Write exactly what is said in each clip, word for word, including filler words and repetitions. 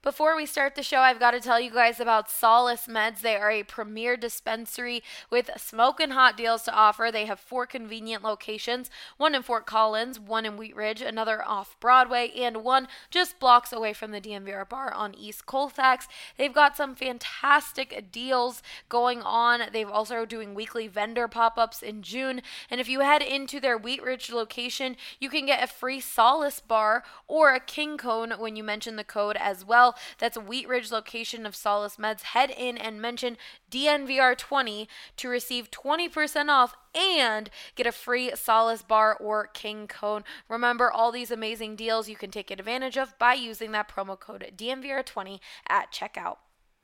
Before we start the show, I've got to tell you guys about Solace Meds. They are a premier dispensary with smoking hot deals to offer. They have four convenient locations, one in Fort Collins, one in Wheat Ridge, another off Broadway, and one just blocks away from the D M V R bar on East Colfax. They've got some fantastic deals going on. They've also doing weekly vendor pop-ups in June. And if you head into their Wheat Ridge location, you can get a free Solace bar or a King Cone when you mention the code as well. That's a Wheat Ridge location of Solace Meds. Head in and mention D N V R twenty to receive twenty percent off and get a free Solace bar or King Cone. Remember, all these amazing deals you can take advantage of by using that promo code D N V R twenty at checkout.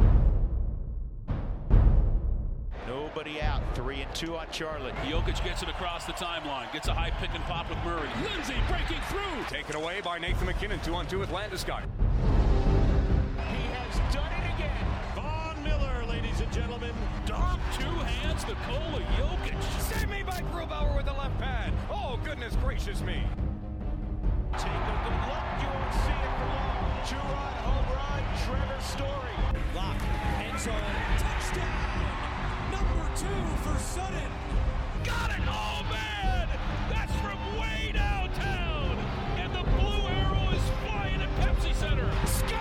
Nobody out. Three and two on Charlotte. Jokic gets it across the timeline. Gets a high pick and pop with Murray. Lindsay breaking through. Taken away by Nathan McKinnon. Two on two with Landeskog. He has done it again. Von Miller, ladies and gentlemen. Dom, two hands, Nikola Jokic. Save me by Grubauer with the left pad. Oh, goodness gracious me. Take a good look. You won't see it for long. Two-run home run. Trevor Story. Lock. End zone. Touchdown. Number two for Sutton. Got it! Oh, man! That's from way downtown! And the blue arrow is flying at Pepsi Center. Score!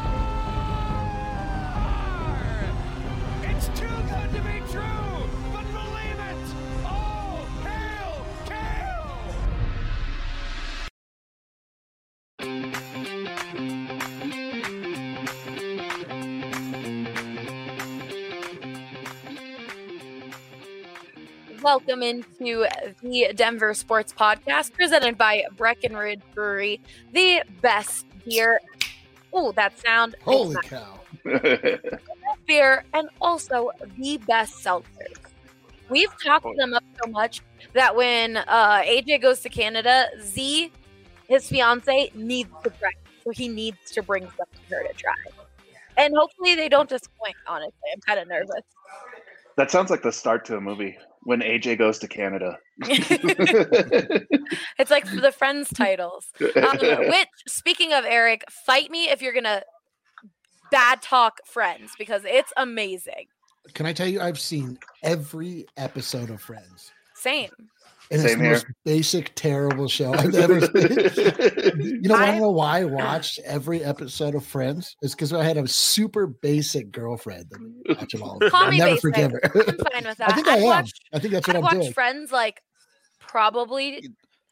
It's too good to be true, but believe it! Oh, hail, Kale! Welcome into the Denver Sports Podcast presented by Breckenridge Brewery, the best beer. Oh, that sound. Holy cow. Beer and also the best seltzers. We've talked them up so much that when uh, A J goes to Canada, Z, his fiance, needs to try. So he needs to bring something for her to try. And hopefully they don't disappoint, honestly. I'm kind of nervous. That sounds like the start to a movie. When A J goes to Canada. It's like the Friends titles. Um, which, speaking of Eric, fight me if you're going to bad talk Friends, because it's amazing. Can I tell you, I've seen every episode of Friends. Same. And Same it's the here. most basic, terrible show I've ever seen. You know, I I- don't know why I watched every episode of Friends. It's because I had a super basic girlfriend that would watch it all. Call I'll me never basic. forgive her. I'm fine with that. I think I I've am. watched, I think that's what I've I'm watched doing. Friends like probably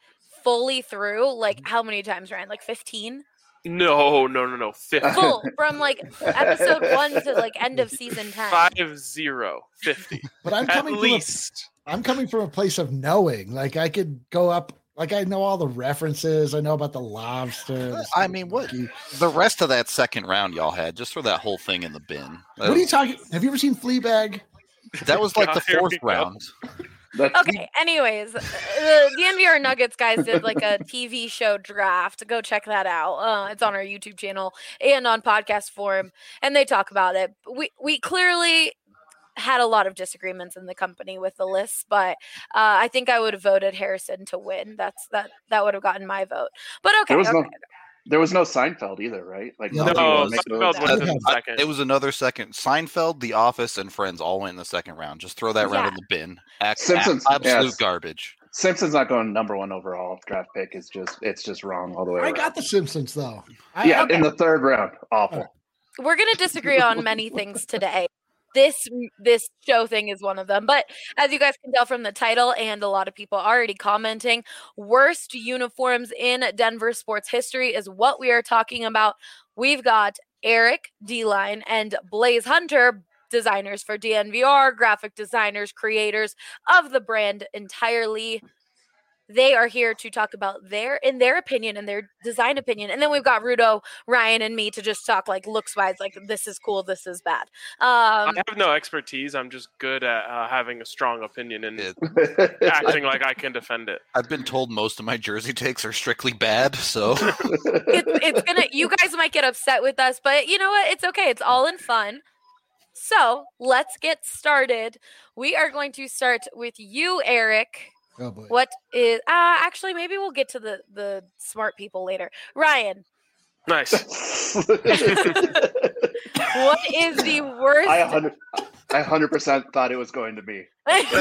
fully through. Like how many times, Ryan? Like fifteen? No, no, no, no. fifty. Full from like episode one to like end of season ten. Five zero. fifty. But I'm At coming from a, least. I'm coming from a place of knowing. Like I could go up. Like I know all the references. I know about the lobster. the I mean, what sticky. the rest of that second round y'all had, just throw that whole thing in the bin. That What are you was- talking? Have you ever seen Fleabag? That was like the Here we fourth go. round. That's, Okay, anyways, the, the N V R Nuggets guys did like a T V show draft. Go check that out. Uh, it's on our YouTube channel and on podcast form, and they talk about it. We we clearly had a lot of disagreements in the company with the lists, but uh, I think I would have voted Harrison to win. That's that that would have gotten my vote. But okay, there was okay. no there was no Seinfeld either, right? Like No, nobody No, would make Seinfeld those. went in Yeah. the second. It was another second. Seinfeld, The Office, and Friends all went in the second round. Just throw that round Yeah. in the bin. Ac- Simpsons, a- absolute yes. garbage. Simpsons not going number one overall draft pick is just it's just wrong all the way I around. got the Simpsons though. I, yeah, I- in the third round. Awful. We're going to disagree on many things today. This this show thing is one of them. But as you guys can tell from the title, and a lot of people already commenting, worst uniforms in Denver sports history is what we are talking about. We've got Eric, D-Line, and Blaze Hunter, designers for D N V R, graphic designers, creators of the brand entirely. They are here to talk about their, in their opinion, and their design opinion. And then we've got Rudo, Ryan, and me to just talk like looks wise, like this is cool, this is bad. Um, I have no expertise. I'm just good at uh, having a strong opinion and It- acting like I can defend it. I've been told most of my jersey takes are strictly bad, so it's, it's gonna, you guys might get upset with us, but you know what? It's okay. It's all in fun. So let's get started. We are going to start with you, Eric. oh boy. What is uh actually maybe we'll get to the the smart people later. Ryan, Nice. What is the worst? I one hundred I one hundred percent thought it was going to be.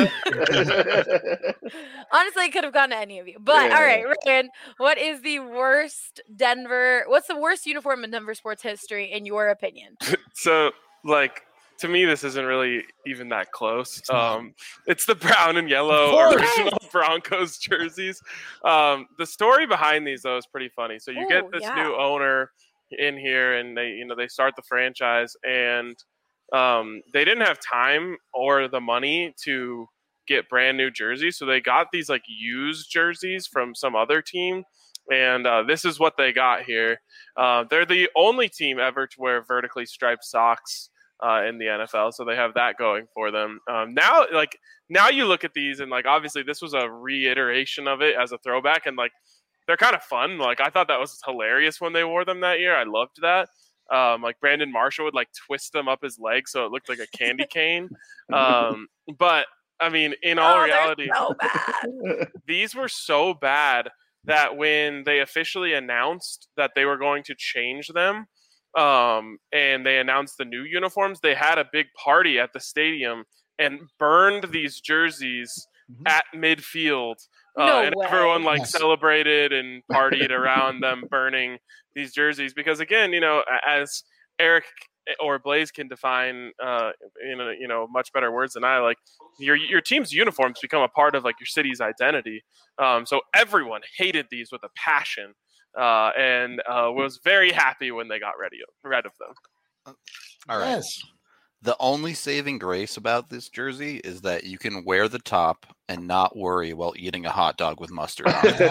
Honestly, it could have gone to any of you. But Yeah. all right, Ryan, what is the worst Denver? What's the worst uniform in Denver sports history, in your opinion? So, like, to me, this isn't really even that close. Um, it's the brown and yellow course. original Broncos jerseys. Um, the story behind these, though, is pretty funny. So you Ooh, get this yeah. new owner in here, and they, you know, they start the franchise, and um, they didn't have time or the money to get brand new jerseys, so they got these like used jerseys from some other team. And uh, this is what they got here. Uh, they're the only team ever to wear vertically striped socks uh, in the N F L, so they have that going for them. Um, now, like now, you look at these, and like obviously this was a reiteration of it as a throwback, and like they're kind of fun. Like I thought that was hilarious when they wore them that year. I loved that. Um, like Brandon Marshall would like twist them up his leg so it looked like a candy cane. Um, but I mean, in all Oh, they're reality, so bad. these were so bad that when they officially announced that they were going to change them, um, and they announced the new uniforms, they had a big party at the stadium and burned these jerseys Mhm. at midfield. Uh, No and way. everyone like Yes. celebrated and partied around them burning these jerseys because, again, you know, as Eric or Blaze can define uh, in a, you know much better words than I, like your your team's uniforms become a part of like your city's identity. Um, so everyone hated these with a passion, uh, and uh, was very happy when they got ready rid of them. All right. Yes. The only saving grace about this jersey is that you can wear the top and not worry while eating a hot dog with mustard on it.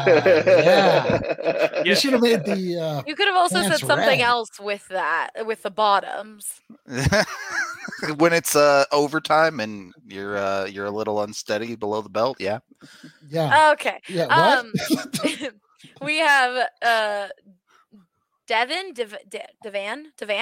yeah. You Yeah. should have made the. Uh, You could have also said Pants something red. else with that, with the bottoms. When it's uh, overtime and you're uh, you're a little unsteady below the belt, yeah. yeah. Okay. Yeah. What? Um, we have uh, Devin Dev- De- Devan Devan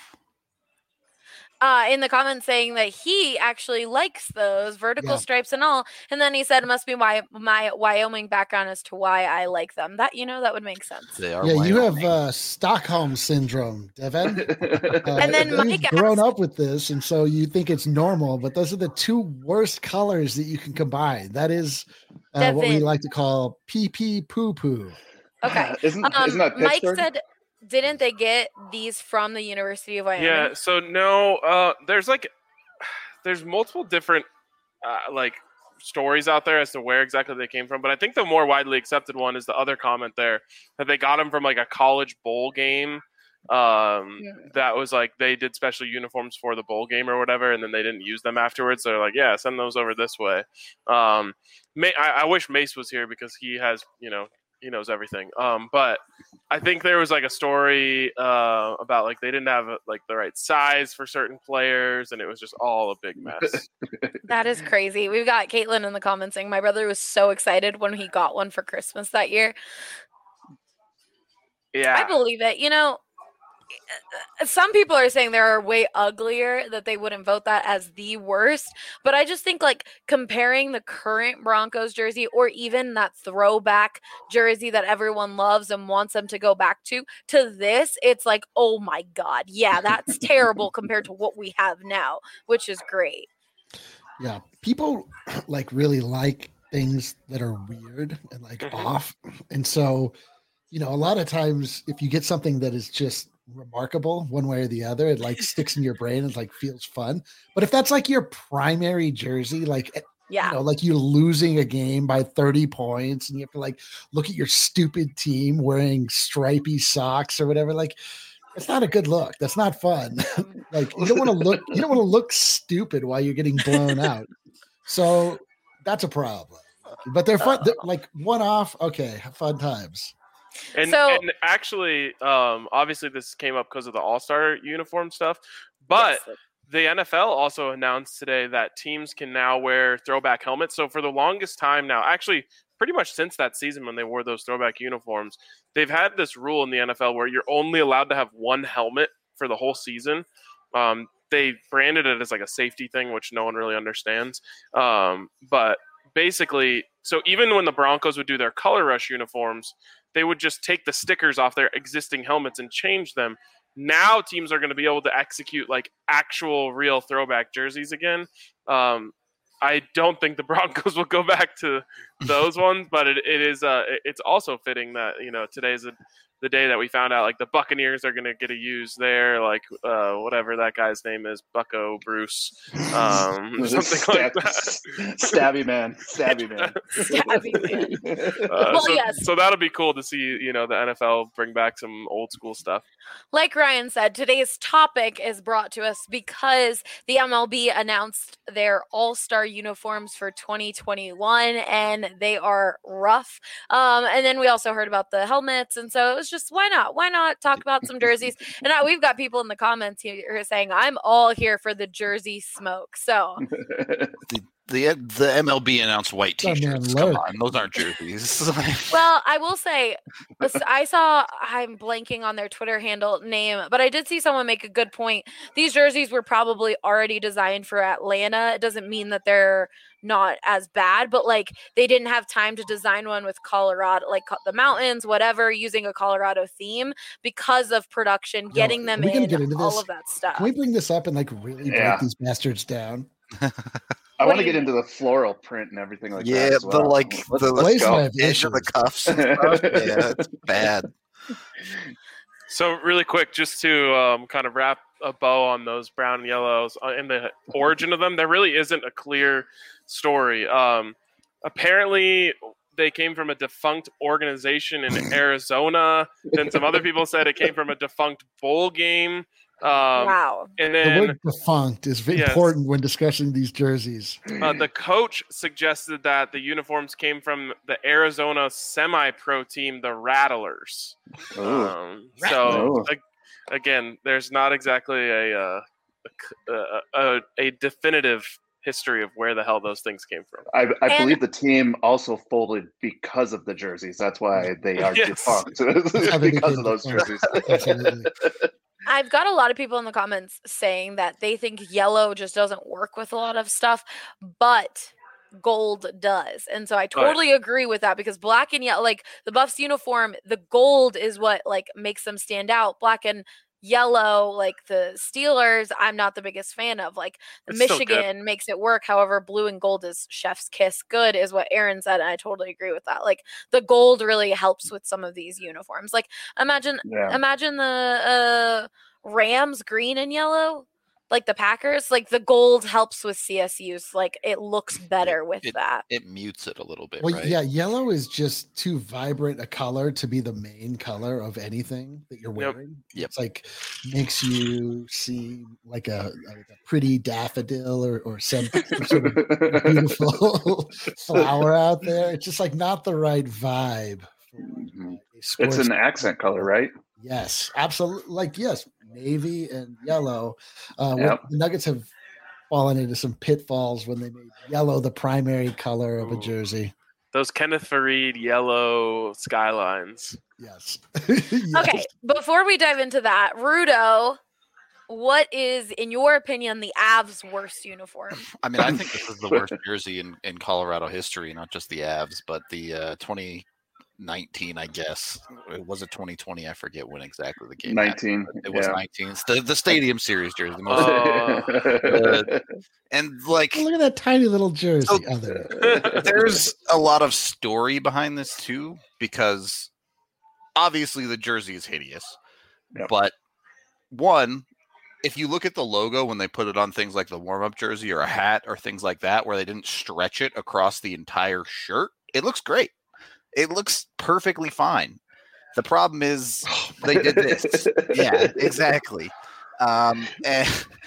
uh, in the comments saying that he actually likes those vertical Yeah. stripes and all, and then he said it must be my my Wyoming background as to why I like them. That you know that would make sense. They are yeah, you have Wyoming. uh, Stockholm syndrome, Devin. Uh, And then you've Mike grown asked- up with this, and so you think it's normal. But those are the two worst colors that you can combine. That is uh, what we Devin. like to call pee pee poo poo. Okay. Isn't, Um, isn't that Mike Pittsburgh? said, didn't they get these from the University of Wyoming? Yeah. So no, uh, there's like there's multiple different uh, like stories out there as to where exactly they came from, but I think the more widely accepted one is the other comment there that they got them from like a college bowl game. Um, Yeah. that was like they did special uniforms for the bowl game or whatever, and then they didn't use them afterwards. So they're like, yeah, send those over this way. Um, May, I, I wish Mace was here because he has, you know, he knows everything. Um, but I think there was like a story uh, about like they didn't have like the right size for certain players, and it was just all a big mess. That is crazy. We've got Caitlin in the comments saying my brother was so excited when he got one for Christmas that year. I Yeah, believe it. You know, some people are saying there are way uglier that they wouldn't vote that as the worst. But I just think like comparing the current Broncos jersey or even that throwback jersey that everyone loves and wants them to go back to, to this, it's like, oh my God. Yeah, that's terrible compared to what we have now, which is great. Yeah, people like really like things that are weird and like Mhm. off, and so you know, a lot of times if you get something that is just remarkable one way or the other, it like sticks in your brain and like feels fun. But if that's like your primary jersey, like eh, Yeah. you know, like you're losing a game by thirty points and you have to like look at your stupid team wearing stripy socks or whatever, like it's not a good look. That's not fun. Like you don't want to look you don't want to look stupid while you're getting blown out. So that's a problem. But they're fun, they're like one off, okay, fun times. and So- and actually, um, obviously this came up because of the All Star uniform stuff, but. Yes. The N F L also announced today that teams can now wear throwback helmets. So for the longest time now, actually pretty much since that season when they wore those throwback uniforms, they've had this rule in the N F L where you're only allowed to have one helmet for the whole season. Um, they branded it as like a safety thing, which no one really understands. Um, but basically, so even when the Broncos would do their Color Rush uniforms, they would just take the stickers off their existing helmets and change them. Now teams are going to be able to execute like actual real throwback jerseys again. Um, I don't think the Broncos will go back to those ones, but it, it is uh, it's also fitting that, you know, today's a, the day that we found out like the Buccaneers are going to get a use there, like uh, whatever that guy's name is, Bucko Bruce, um, something Stab, like that. Stabby man, stabby man, Stabby man. Uh, Well, so, yes. so that'll be cool to see, you know, the N F L bring back some old school stuff. Like Ryan said, today's topic is brought to us because the M L B announced their all-star uniforms for twenty twenty-one, and they are rough. Um, and then we also heard about the helmets, and so it was just, why not? Why not talk about some jerseys? And now we've got people in the comments here saying, I'm all here for the jersey smoke. So The, the the M L B announced white Oh, man, T-shirts. Come look. on, those aren't jerseys. Well, I will say, I saw, I'm blanking on their Twitter handle name, but I did see someone make a good point. These jerseys were probably already designed for Atlanta. It doesn't mean that they're not as bad, but like they didn't have time to design one with Colorado, like the mountains, whatever, using a Colorado theme because of production, getting them we can in, get into all this. of that stuff. Can we bring this up and like really Yeah. break these bastards down? I What want to do you get into the floral print and everything like Yeah, that. as the, well. like, let's, the- let's Blaze go. might have Edge of the issues. cuffs and stuff. Yeah, it's bad. So really quick, just to um, kind of wrap a bow on those brown and yellows uh, and the origin of them, there really isn't a clear story. Um, apparently, they came from a defunct organization in Arizona. Then some other people said it came from a defunct bowl game. Um, Wow. And The then word defunct is Yes. important when discussing these jerseys. uh, the coach suggested that the uniforms came from the Arizona semi-pro team, the Rattlers. Ooh. Um, so Ooh. ag- again, there's not exactly a, uh, a, c- a, a a definitive history of where the hell those things came from. I, I And- believe the team also folded because of the jerseys. That's why they are Yes. defunct. how they because became of those defunct. jerseys. Absolutely. I've got a lot of people in the comments saying that they think yellow just doesn't work with a lot of stuff, but gold does. And so I totally agree with that because black and yellow, like the Buffs uniform, the gold is what like makes them stand out. Black and yellow, like the Steelers, I'm not the biggest fan of. Like the It's still good. Michigan makes it work. However, blue and gold is chef's kiss. Good is what Aaron said, and I totally agree with that. Like the gold really helps with some of these uniforms. Like imagine Yeah. imagine the uh Rams green and yellow, like the Packers. Like the gold helps with C S Us. Like it looks better with It- that. It mutes it a little bit, Well, right? yeah, yellow is just too vibrant a color to be the main color of anything that you're Yep. wearing. Yep. It's like makes you seem like a, like a pretty daffodil or, or some, some sort of beautiful flower out there. It's just like not the right vibe. For Mhm. a It's sports- an accent color, right? Yes, absolutely. Like yes, navy and yellow. Uh, what- Yep. The Nuggets have fallen into some pitfalls when they made yellow the primary color of a Ooh. jersey. Those Kenneth Fareed yellow skylines. Yes. Okay, before we dive into that, Rudo, what is, in your opinion, the Avs' worst uniform? I mean, I think this is the worst jersey in, in Colorado history, not just the Avs, but the uh, twenty nineteen, I guess. It was it twenty twenty? I forget when exactly the game happened. nineteen. It was yeah. nineteen. It's the, the Stadium Series jersey. The most, Oh. and like, Oh, look at that tiny little jersey. So- Oh, there. there's a lot of story behind this too, because obviously the jersey is hideous. Yep. But one, if you look at the logo when they put it on things like the warm-up jersey or a hat or things like that, where they didn't stretch it across the entire shirt, it looks great. It looks perfectly fine. The problem is they did this. Yeah, exactly. Um, and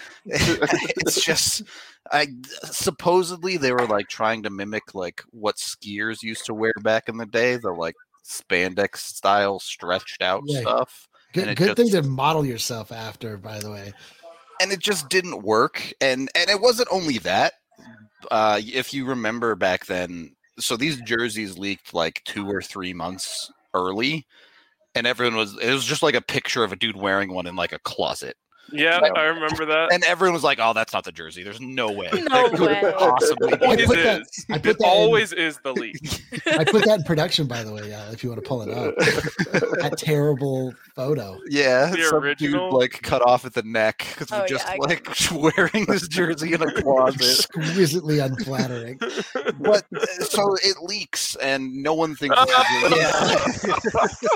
it's just, I supposedly they were like trying to mimic like what skiers used to wear back in the day, the like spandex style stretched out Yeah. stuff. Good, and it good thing just- to model yourself after, by the way. and it just didn't work. And and it wasn't only that. Uh, if you remember back then, so these jerseys leaked like two or three months early, and everyone was it was just like a picture of a dude wearing one in like a closet. Yeah, Yeah. I remember that. And everyone was like, "Oh, that's not the jersey. There's no way. No That couldn't way. possibly be I It it." put that- is. I put It that in- always is the leak. I put that in production, by the way, uh, if you want to pull it up. That terrible photo. Yeah, The some original? dude like cut off at the neck because Oh, we're just yeah, I- like wearing this jersey in a closet. Exquisitely unflattering. But uh, so it leaks, and no one thinks. It's yeah.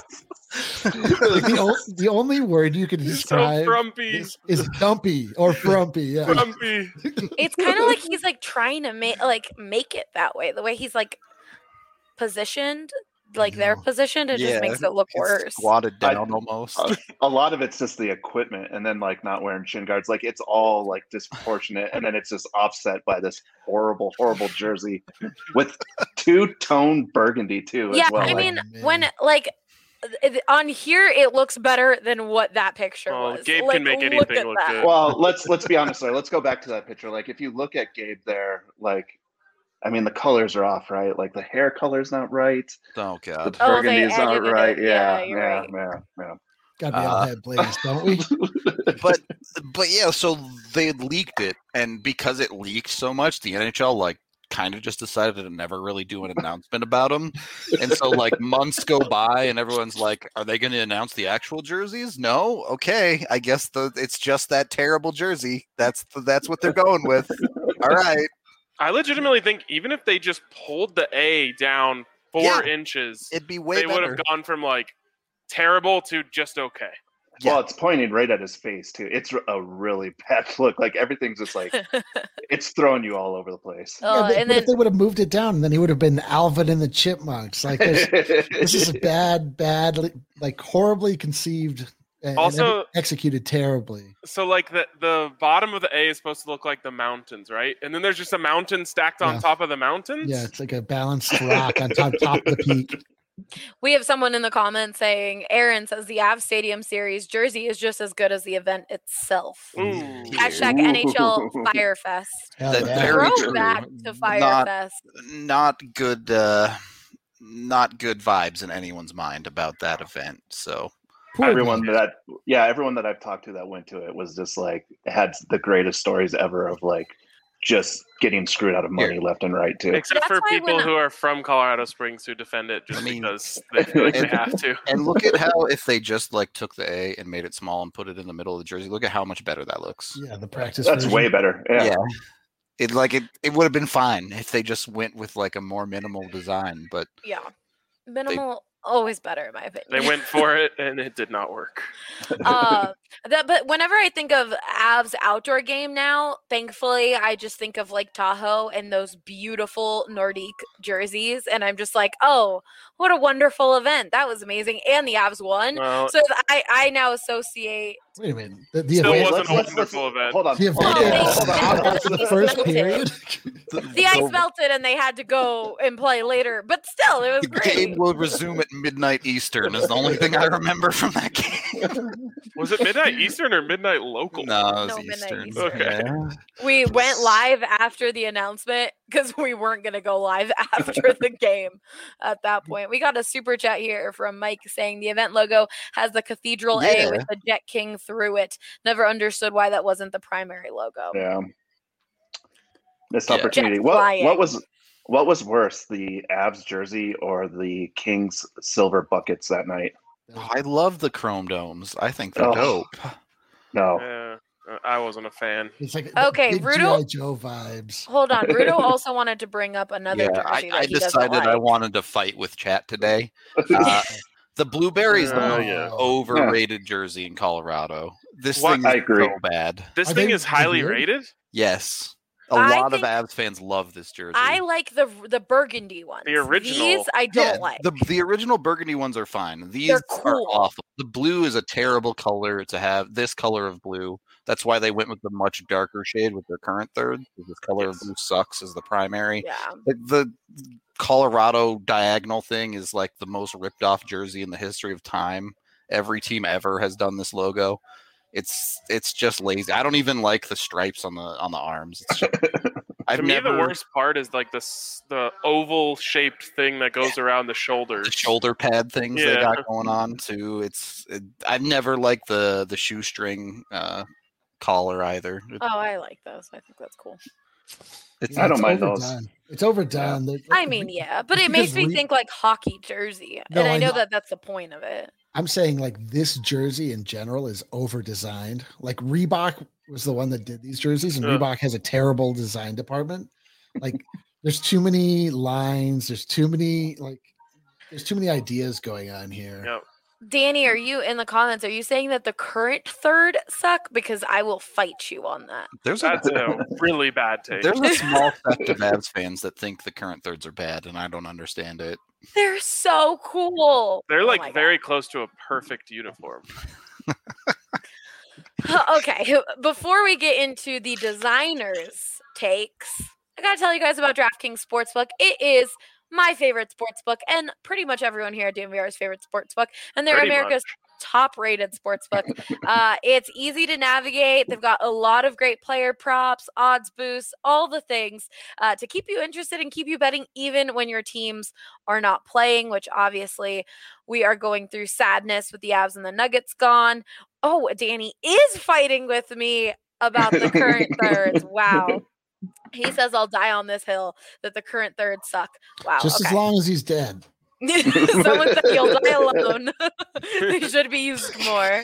Like the, o- the only word you can so describe frumpy. is, is dumpy or frumpy. Yeah. Frumpy. It's kind of like he's like trying to make like make it that way. The way he's like positioned, like they're know. positioned, it Yeah, just makes it look It's worse. squatted I- down almost. Uh, a lot of it's just the equipment, and then like not wearing shin guards. Like it's all like disproportionate, and then it's just offset by this horrible, horrible jersey with two tone burgundy too. Yeah, as well. I Like, mean, man. when like th- on here, it looks better than what that picture Oh, was. Gabe Like, can make look anything at look that. good. well, let's let's be honest there. Let's go back to that picture. Like if you look at Gabe there, like I mean the colors are off, right? Like the hair color's not right. Oh The god. Oh, they burgundy's not edited right. it. Yeah, Yeah, you're yeah, right. yeah, yeah. Got to be all Uh, head blazed, don't we? But but yeah, so they leaked it, and because it leaked so much, the N H L like kind of just decided to never really do an announcement about them. And so like months go by, and everyone's like, "Are they going to announce the actual jerseys?" No. Okay, I guess the it's just that terrible jersey. That's the, that's what they're going with. All right. I legitimately think even if they just pulled the A down four Yeah. inches, It'd be way they would better. have gone from like terrible to just okay. Yeah. Well, it's pointing right at his face too. It's a really bad look. Like everything's just like it's throwing you all over the place. Oh, yeah, but, and but then if they would have moved it down, then he would have been Alvin and the Chipmunks. Like this, this is a bad, bad, like horribly conceived and, Also- and executed terribly. So like the the bottom of the A is supposed to look like the mountains, right? And then there's just a mountain stacked on Yeah. top of the mountains. Yeah, it's like a balanced rock on top, top of the peak. we have someone in the comments saying, Aaron says the Avs Stadium Series jersey is just as good as the event itself. Ooh. Hashtag N H L Firefest. Hell That's yeah. very true. Throwback to Not- Firefest. Not good. Uh, not good vibes in anyone's mind about that event. So Poor everyone guy. that yeah, everyone that I've talked to that went to it was just like had the greatest stories ever of like just getting screwed out of money left and right too. Except That's for why people when- who are from Colorado Springs who defend it just I mean- because they feel like they have to. and look at how if they just like took the A and made it small and put it in the middle of the jersey, look at how much better that looks. Yeah, the practice. That's version. way better. Yeah. Yeah. It like it, it would have been fine if they just went with like a more minimal design, but Yeah. Minimal, always better in my opinion. They went for it and it did not work. uh, that, but whenever I think of Avs outdoor game now, thankfully I just think of Lake Tahoe and those beautiful Nordique jerseys, and I'm just like, oh, what a wonderful event! That was amazing, and the Avs won. Well, So th- I I now associate. Wait a minute. The, the Still event, wasn't a wonderful event. Hold on. the Hold event on. Oh, they- hold on, they- after the they first melted. period. The ice melted and they had to go and play later, but still, it was the great. game will resume at midnight Eastern is the only thing I remember from that game. Was it midnight Eastern or midnight local? No, it was No, midnight Eastern. Eastern. Okay. Yeah. We went live after the announcement because we weren't going to go live after the game at that point. We got a super chat here from Mike saying the event logo has the Cathedral A Yeah. with the Jet King through it. Never understood why that wasn't the primary logo. Yeah. Missed Yeah. opportunity. Jets What flying. what was what was worse, the Avs jersey or the Kings silver buckets that night? I love the chrome domes. I think they're Oh. dope. No. Yeah, uh, I wasn't a fan. It's like Okay, big Rudo- G I. Joe vibes. Hold on. Rudo also wanted to bring up another Yeah, I, jersey I that he doesn't decided like. I wanted to fight with chat today. Uh, the blueberry is the Oh, most yeah. overrated jersey in Colorado. This What? thing is I agree. so bad. This Are thing they is highly weird? rated. Yes. A I lot think- of Avs fans love this jersey. I like the the burgundy ones. The original. These I don't Yeah, like. the the original burgundy ones are fine. These They're are cool. awful. The blue is a terrible color to have. This color of blue. That's why they went with the much darker shade with their current third. Because this color of Yes. blue sucks as the primary. Yeah. Like the Colorado diagonal thing is like the most ripped off jersey in the history of time. Every team ever has done this logo. It's it's just lazy. I don't even like the stripes on the on the arms. It's just, I've to me, never the worst part is like this the oval shaped thing that goes around the shoulders. the shoulder pad things they Yeah. got going on too. It's it, I've never liked the the shoestring uh, collar either. It- Oh, I like those. I think that's cool. It's, I don't it's mind those. overdone. It's overdone. They- I mean, yeah, but it because makes me Re- think like hockey jersey, No, and I I know know. that that's the point of it. I'm saying like this jersey in general is over designed. Like Reebok was the one that did these jerseys, and Ugh. Reebok has a terrible design department. Like there's too many lines, there's too many like there's too many ideas going on here. Yep. Danny, are you in the comments? Are you saying that the current third suck? Because I will fight you on that. there's a That's a really bad take. there's a small sect of Mavs fans that think the current thirds are bad, and I don't understand it. They're so cool. They're Oh like my God. very close to a perfect uniform. Okay, before we get into the designers' takes, I gotta tell you guys about DraftKings Sportsbook. It is my favorite sportsbook, and pretty much everyone here at D N V R's favorite sportsbook, and they're Pretty America's top-rated sportsbook. Uh, it's easy to navigate. They've got a lot of great player props, odds boosts, all the things uh, to keep you interested and keep you betting even when your teams are not playing, which obviously we are going through sadness with the Avs and the Nuggets gone. Oh, Danny is fighting with me about the current thirds. Wow. He says I'll die on this hill that the current thirds suck. Wow. Just okay. as long as he's dead. Someone said you'll die alone. They should be used more.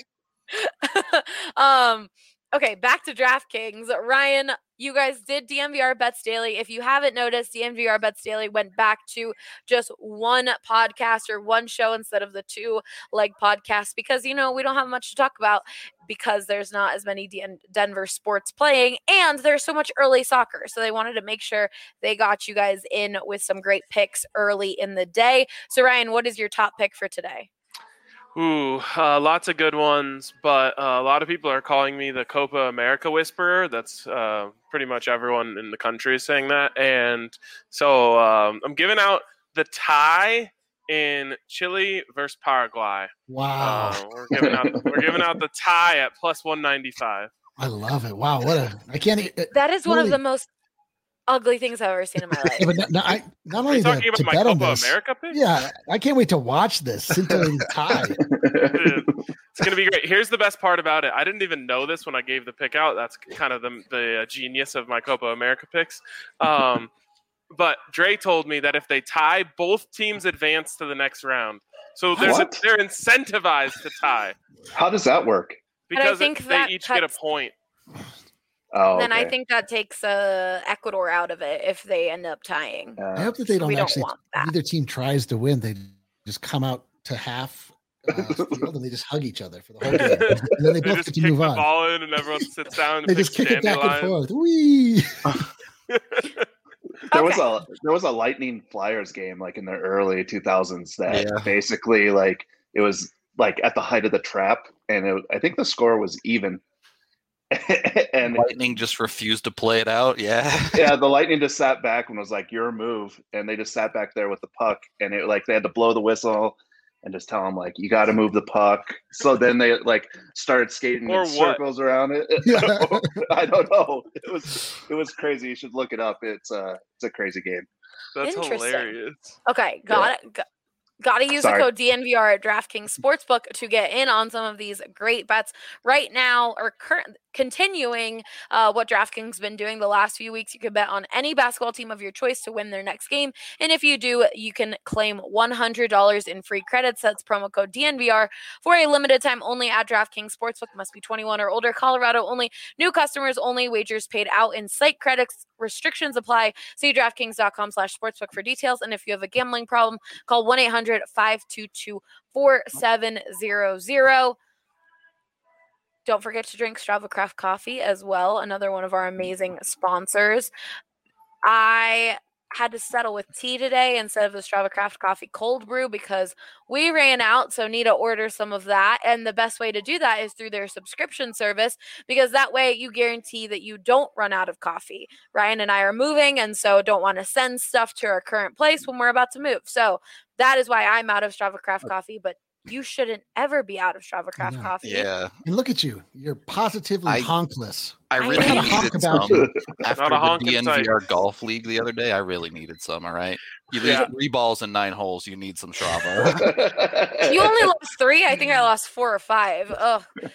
um, okay, back to DraftKings. Ryan, you guys did D N V R Bets Daily. If you haven't noticed, D N V R Bets Daily went back to just one podcast or one show instead of the two leg podcast because, you know, we don't have much to talk about because there's not as many Den- Denver sports playing and there's so much early soccer. So they wanted to make sure they got you guys in with some great picks early in the day. So Ryan, what is your top pick for today? Ooh, uh, lots of good ones, but uh, a lot of people are calling me the Copa America Whisperer. That's uh, pretty much everyone in the country is saying that. And so um, I'm giving out the tie in Chile versus Paraguay. Wow. Uh, we're giving out we're giving out the tie at plus one ninety-five. I love it. Wow. What a I can't e- That is one really- of the most ugly things I've ever seen in my life. Yeah, but not, not, I, not Are only you that, talking to about my bet on Copa this, America pick? yeah, I can't wait to watch this scintillating tie. It's going to be great. Here's the best part about it. I didn't even know this when I gave the pick out. That's kind of the, the uh, genius of my Copa America picks. Um, but Dre told me that if they tie, both teams advance to the next round. So there's a, What? they're incentivized to tie How does that work? And I because think it, that they each get a cuts- point. Oh, Then I okay. think that takes uh, Ecuador out of it if they end up tying. Uh, I hope that they don't We don't actually, want that. either team tries to win, they just come out to half uh, field and they just hug each other for the whole game. And then they They both just get to kick move the on. ball in and everyone sits down and They picks just kick it back and dandelion. forth. Whee! There was Okay. a there was a Lightning Flyers game like in the early two thousands that Yeah. basically like it was like at the height of the trap, and it, I think the score was even. and Lightning just refused to play it out. Yeah. yeah, the Lightning just sat back and was like, "Your move," and they just sat back there with the puck, and it like they had to blow the whistle and just tell them like, "You got to move the puck." So then they like started skating Or in what? circles around it. Yeah. I don't know. It was it was crazy. You should look it up. It's uh it's a crazy game. That's Interesting. hilarious. Okay, got it. Got, got to use Sorry. the code D N V R at DraftKings Sportsbook to get in on some of these great bets right now or current continuing uh, what DraftKings been doing the last few weeks. You can bet on any basketball team of your choice to win their next game. And if you do, you can claim one hundred dollars in free credits. That's promo code D N V R for a limited time only at DraftKings Sportsbook. Must be twenty-one or older. Colorado only. New customers only. Wagers paid out in site credits. Restrictions apply. See DraftKings.com slash sportsbook for details. And if you have a gambling problem, call one eight hundred five two two four seven zero zero. Don't forget to drink Strava Craft Coffee as well, another one of our amazing sponsors. I had to settle with tea today instead of the Strava Craft Coffee cold brew because we ran out, so need to order some of that. And the best way to do that is through their subscription service because that way you guarantee that you don't run out of coffee. Ryan and I are moving, and so don't want to send stuff to our current place when we're about to move. So that is why I'm out of Strava Craft Coffee, but you shouldn't ever be out of Strava Craft know. Coffee. Yeah. And look at you. You're positively I- honkless. I I really know. needed Talk about some you. after Not a the honking D N type. V R golf league the other day. I really needed some. All right, you leave Yeah. three balls in nine holes. You need some Strava. You only lost three. I think I lost four or five. Ugh.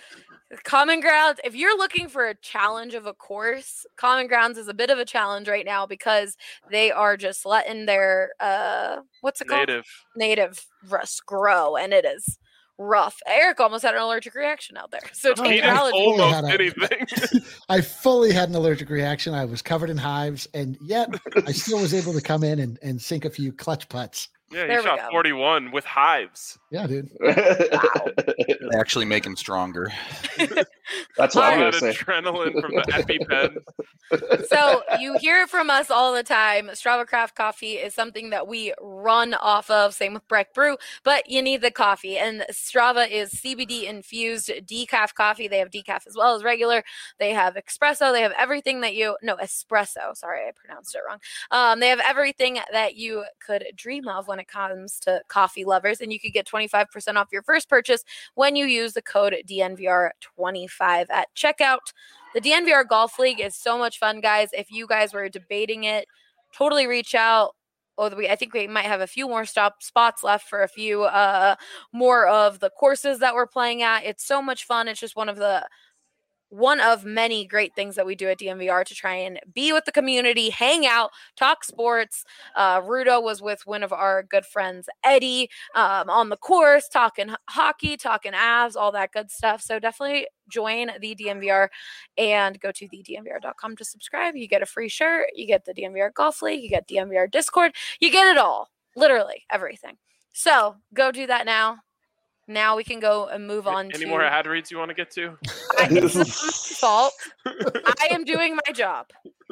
Common Grounds, if you're looking for a challenge of a course, Common Grounds is a bit of a challenge right now because they are just letting their, uh, what's it called? Native. Native rust grow, and it is rough. Eric almost had an allergic reaction out there. So Oh, take He your did I allergy. fully almost had a- anything. I fully had an allergic reaction. I was covered in hives, and yet I still was able to come in and, and sink a few clutch putts. Yeah, he There we shot go. forty-one with hives. Yeah, dude. Actually make him stronger. That's what All I'm that gonna say. adrenaline from the EpiPen. So you hear it from us all the time. Strava Craft Coffee is something that we run off of. Same with Breck Brew, but you need the coffee. And Strava is C B D infused decaf coffee. They have decaf as well as regular. They have espresso. They have everything that you no espresso. Sorry, I pronounced it wrong. Um, they have everything that you could dream of when it comes to coffee lovers, and you could get twenty-five percent off your first purchase when you use the code D N V R twenty-five at checkout. The D N V R Golf League is so much fun, guys. If you guys were debating it, totally reach out. Oh, we, I think we might have a few more stop spots left for a few uh, more of the courses that we're playing at. It's so much fun. It's just one of the one of many great things that we do at D N V R to try and be with the community, hang out, talk sports. Uh, Rudo was with one of our good friends, Eddie, um, on the course, talking h- hockey, talking Avs, all that good stuff. So definitely join the D N V R and go to the D N V R dot com to subscribe. You get a free shirt. You get the D N V R Golf League. You get D N V R Discord. You get it all. Literally everything. So go do that now. Now we can go and move on Any to more ad reads you want to get to? I, it's not my fault. I am doing my job.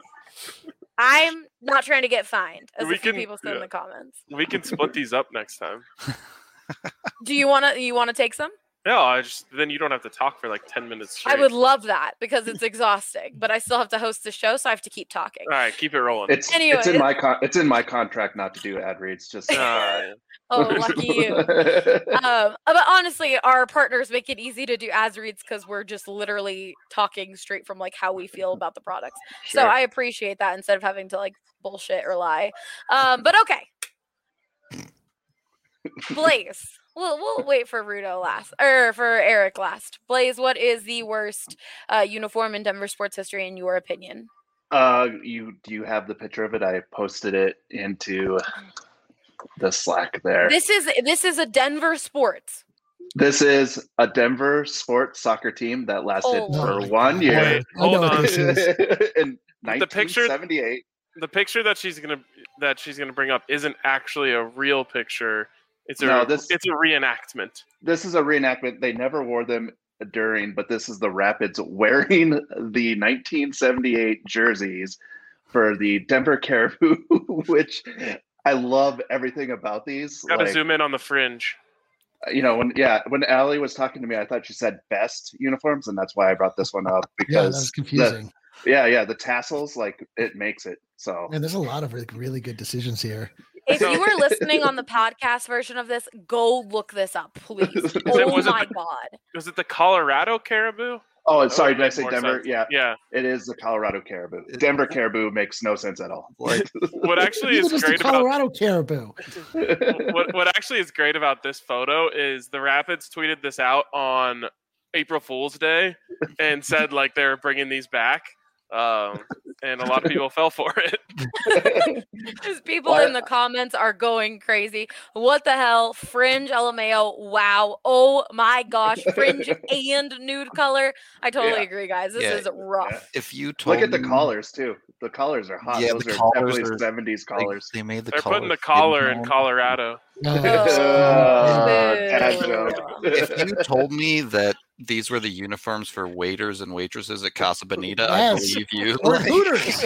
I'm not trying to get fined, as We a few can- people said in yeah. the comments. We can split these up next time. Do you want to? You want to take some? No, I just then you don't have to talk for like ten minutes straight. I would love that because it's exhausting, but I still have to host the show, so I have to keep talking. All right, keep it rolling. It's Anyway. it's in my con- it's in my contract not to do ad reads. Just Uh, Oh, lucky you. Um, but honestly, our partners make it easy to do ads reads because we're just literally talking straight from like how we feel about the products. So Sure. I appreciate that instead of having to like bullshit or lie. Um, but okay, Blaze. We'll we'll wait for Rudo last or for Eric last. Blaze, what is the worst uh, uniform in Denver sports history in your opinion? Uh, you do you have the picture of it? I posted it into the Slack there. This is this is a Denver sports. This is a Denver sports soccer team that lasted Oh. for Oh my one God. year Wait, I know hold what on. this is. in The picture- nineteen seventy-eight. the picture that she's gonna that she's gonna bring up isn't actually a real picture. It's a No, this- it's a reenactment. This is a reenactment. They never wore them during, but this is the Rapids wearing the nineteen seventy-eight jerseys for the Denver Caribou, which I love everything about these. Got to Like, zoom in on the fringe. you know, when yeah, when Allie was talking to me, I thought she said best uniforms, and that's why I brought this one up Yeah, that because was the- confusing. yeah, yeah, the tassels, like it makes it. So And there's a lot of really, really good decisions here. If So- you were listening on the podcast version of this, go look this up, please. Is it- Oh was it my the- god. Was it the Colorado Caribou? oh, That sorry, would did I make say more Denver? sense. Yeah, Yeah. it is the Colorado Caribou. Denver Caribou makes no sense at all. Like, What actually Even is just the great about Colorado Caribou. what what actually is great about this photo is the Rapids tweeted this out on April Fool's Day and said like they were bringing these back, um, and a lot of people fell for it. Just people What? in the comments are going crazy. What the hell? Fringe L M A O. Wow. Oh my gosh. Fringe and nude color. I totally Yeah. agree, guys. This Yeah. is rough. if you told Look at the me- collars too. The collars are hot. Yeah, Those the are collars definitely are- seventies like, collars. they made the They're putting the collar collar skin in tone. Colorado. Oh, Uh, dad Boo. joke. If you told me that these were the uniforms for waiters and waitresses at Casa Bonita, I Yes. believe you. Or Like, Hooters.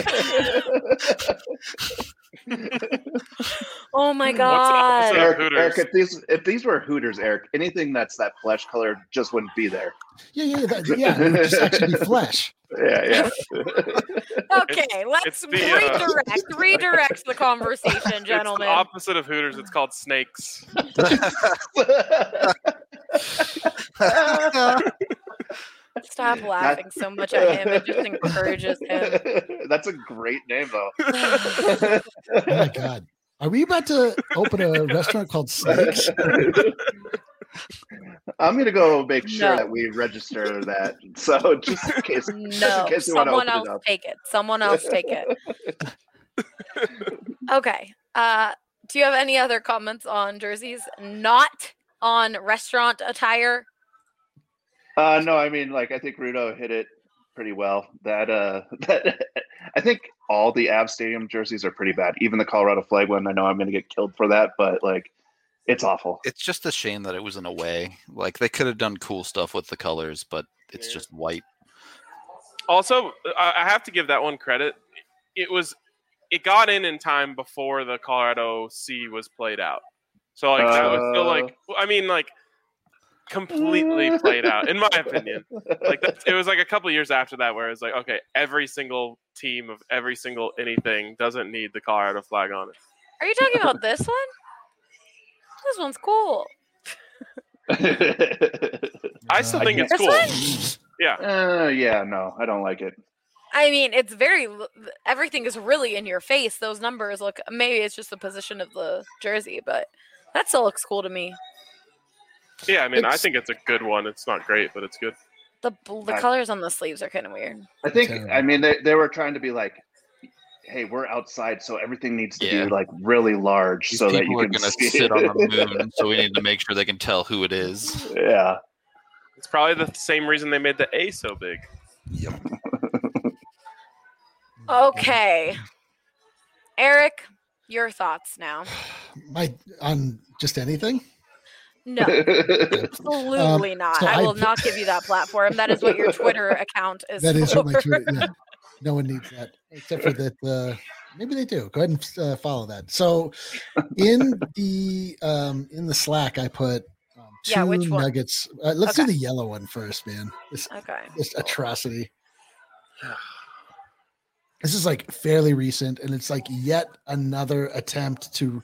Oh my What's the god. opposite of Eric, Hooters? Eric, if these if these were Hooters, Eric, anything that's that flesh color just wouldn't be there. Yeah, yeah, that, yeah. It would just actually be flesh. Yeah, yeah. Okay, let's it's the, uh, redirect redirect the conversation, It's gentlemen. the opposite of Hooters. It's called snakes. Stop laughing so much at him. It just encourages him. That's a great name, though. Oh my god. Are we about to open a restaurant called Snakes? I'm gonna go make sure No. that we register that. So just in case, just No, in case we want to someone open else it up. take it. Someone else take it. Okay. Uh, do you have any other comments on jerseys? Not on restaurant attire. Uh, no, I mean, like I think Rudo hit it pretty well. That uh, that I think all the Av Stadium jerseys are pretty bad. Even the Colorado flag one. I know I'm gonna get killed for that, but like, it's awful. It's just a shame that it was in a way. Like they could have done cool stuff with the colors, but it's Yeah. just white. Also, I I have to give that one credit. It was, it got in in time before the Colorado C was played out. So like that was still like, I mean like, completely played out in my opinion. Like that's, it was like a couple years after that where it was like, okay, every single team of every single anything doesn't need the Colorado flag on it. Are you talking about this one? This one's cool. I still Uh, think it's This cool. Yeah. Uh, yeah, no, I don't like it. I mean, it's very, everything is really in your face. Those numbers look, maybe it's just the position of the jersey, but that still looks cool to me. Yeah, I mean, I It's- think it's a good one. It's not great, but it's good. The bl- the I- colors on the sleeves are kind of weird. I think, Terrible. I mean, they, they were trying to be like, hey, we're outside, so everything needs to Yeah. be like really large These so that people you are can going to see sit on the it. moon, so we need to make sure they can tell who it is. Yeah. It's probably the same reason they made the A so big. Yep. Okay. Eric, your thoughts now. My on just anything. No, absolutely not. so I I will put- not give you that platform. That is what your Twitter account is That is for. what my Twitter. Yeah. No one needs that except for that. Uh, maybe they do. Go ahead and uh, follow that. So, in the um, in the Slack, I put um, two Yeah, which one? nuggets. Uh, let's Okay. do the yellow one first, man. This, Okay. this atrocity. This is like fairly recent, and it's like yet another attempt to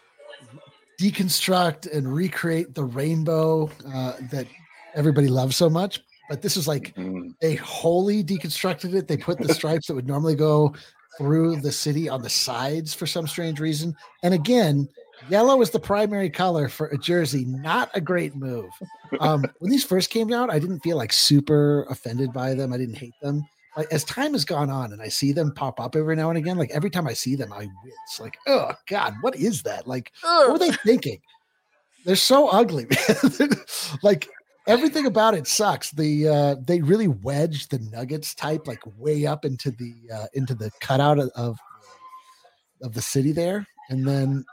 deconstruct and recreate the rainbow uh, that everybody loves so much. But this is like Mm. they wholly deconstructed it. They put the stripes that would normally go through the city on the sides for some strange reason. And again, yellow is the primary color for a jersey. Not a great move. Um, when these first came out, I didn't feel like super offended by them. I didn't hate them. Like, as time has gone on and I see them pop up every now and again, like every time I see them, I wince. Like, oh God, what is that? Like, what were Ugh. they thinking? They're so ugly, man. Like everything about it sucks. The uh they really wedged the Nuggets type like way up into the uh into the cutout of of, of the city there. And then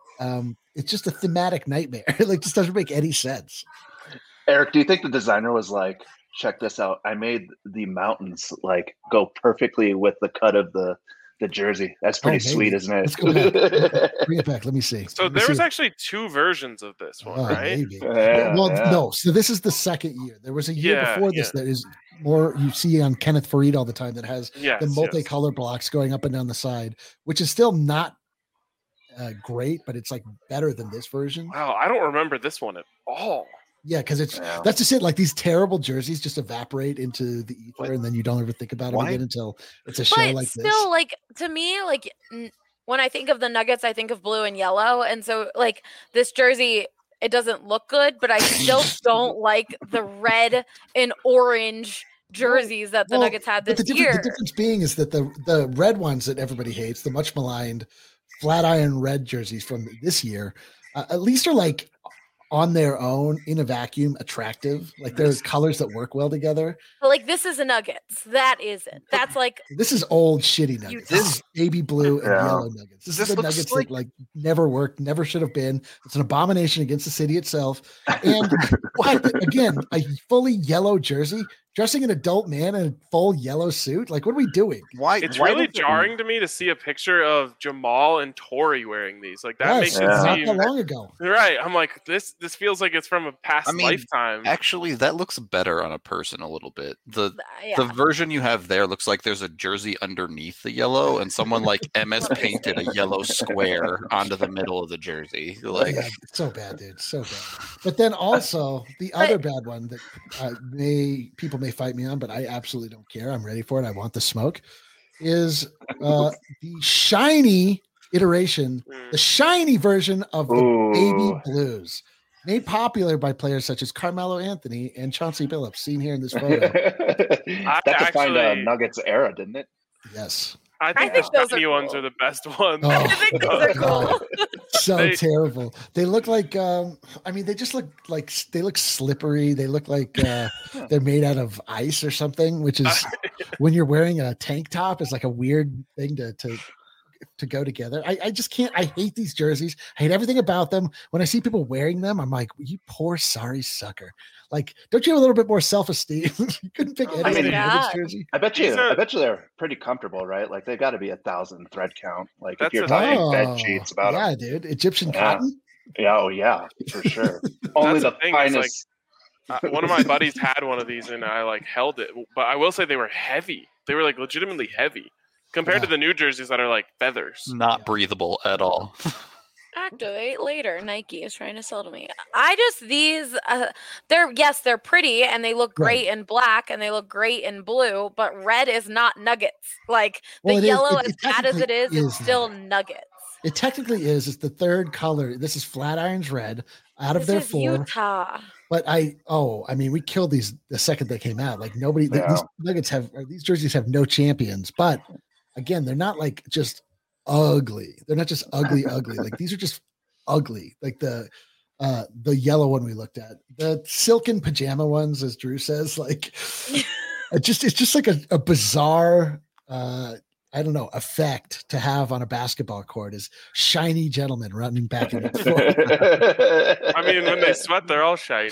um it's just a thematic nightmare. It like just doesn't make any sense. Eric, do you think the designer was like, check this out, I made the mountains like go perfectly with the cut of the the jersey? That's pretty Oh, maybe. sweet, isn't Let's go back. it? Bring it back. Let me see. So Let me there see was it. actually two versions of this one, Oh, right? maybe. Yeah, well, yeah. no. So this is the second year. There was a year Yeah, before this that is more you see on Kenneth Farid all the time that has Yes. the yes. multicolor blocks going up and down the side, which is still not uh, great, but it's like better than this version. Wow, I don't remember this one at all. Yeah, because it's Yeah. that's just it. Like these terrible jerseys just evaporate into the ether, What? and then you don't ever think about it Why? again until it's a show But like still, this. like to me, like n- when I think of the Nuggets, I think of blue and yellow, and so like this jersey, it doesn't look good, but I still don't like the red and orange jerseys that the Well, Nuggets had But this the difference, year. the difference being is that the the red ones that everybody hates, the much maligned flat iron red jerseys from this year, uh, at least are like on their own in a vacuum attractive. Like there's colors that work well together. But like this is a Nuggets. That isn't. That's like This is old shitty nuggets. This is baby blue and Yeah. yellow nuggets. This, This is the looks nuggets like- that like never worked, never should have been. It's an abomination against the city itself. And what again, a fully yellow jersey, dressing an adult man in a full yellow suit. Like, what are we doing? Why? It's why really don't they- jarring to me to see a picture of Jamal and Tori wearing these. Like that Yes, makes Yeah. it not seem that long ago. right. I'm like, this this feels like it's from a past I mean, lifetime. Actually, that looks better on a person a little bit. The yeah. the version you have there looks like there's a jersey underneath the yellow, and someone like M S painted a yellow square onto the middle of the jersey. Like, Yeah, it's so bad, dude. So bad. But then also the other bad one that uh, may people may fight me on, but I absolutely don't care. I'm ready for it. I want the smoke. Is uh, the shiny iteration, Mm. the shiny version of the Ooh. baby blues. made popular by players such as Carmelo Anthony and Chauncey Billups, seen here in this photo. I that defined a actually- Nuggets era, didn't it? Yes. I think, think the those shiny are ones cool. are the best ones. Oh, I think those are God. cool. So They- terrible. They look like um I mean they just look like they look slippery. They look like uh they're made out of ice or something, which is when you're wearing a tank top is like a weird thing to to to go together. I, I just can't. I hate these jerseys. I hate everything about them. When I see people wearing them, I'm like, you poor sorry sucker. Like, don't you have a little bit more self-esteem? You couldn't pick Oh any my other God. Nuggets jersey. I bet you. These are- I bet you they're pretty comfortable, right? Like they got to be a thousand thread count. Like That's if you're the talking thing. bed sheets about yeah, them. dude. Egyptian Yeah. cotton. Yeah, oh yeah, for sure. Only the the, thing, it's finest. Uh, one of my buddies had one of these, and I like held it. But I will say they were heavy. They were like legitimately heavy compared to Yeah. the new jerseys that are like feathers. Not breathable at all. Activate later. Nike is trying to sell to me. I just these uh, they're yes they're pretty and they look great in black and they look great in blue, but red is not Nuggets. Like the Well, it is- yellow, it- as it bad as it technically is, is it's still Nuggets. Nuggets. It technically is. It's the third color. This is Flatirons red out of This their is four. Utah. But I, oh, I mean, we killed these the second they came out. Like nobody, th- these Yeah. Nuggets have, or these jerseys have no champions. But again, they're not like just ugly. They're not just ugly, ugly. Like these are just ugly. Like the, uh, the yellow one we looked at, the silken pajama ones, as Drew says, like it just, it's just like a, a bizarre, uh, I don't know, effect to have on a basketball court is shiny gentlemen running back and forth. I mean, when they sweat, they're all shiny.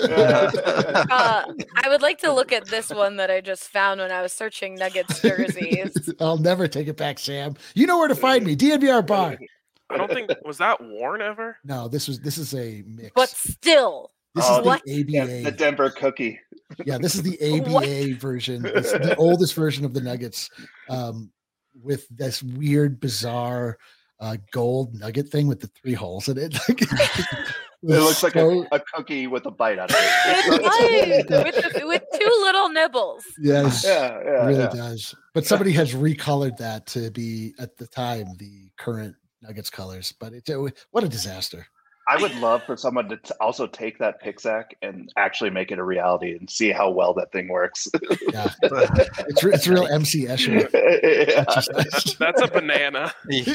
Uh, I would like to look at this one that I just found when I was searching Nuggets jerseys. I'll never take it back, Sam. You know where to find me. D N V R bar. I don't think was that worn ever. No, this was this is a mix. But still, this Oh, is the what? A B Yeah, A. the Denver cookie. Yeah, this is the A B A What? version. It's the oldest version of the Nuggets, um, with this weird, bizarre uh, gold nugget thing with the three holes in it. It looks like a, so- a cookie with a bite out of It it. does, with, the- with two little nibbles. yes, yeah, it yeah, really yeah. does. But somebody has recolored that to be at the time the current Nuggets colors. But it's a, what a disaster. I would love for someone to t- also take that Pixac and actually make it a reality and see how well that thing works. Yeah, it's re- it's real M C Escher. Yeah. That's, that's a banana.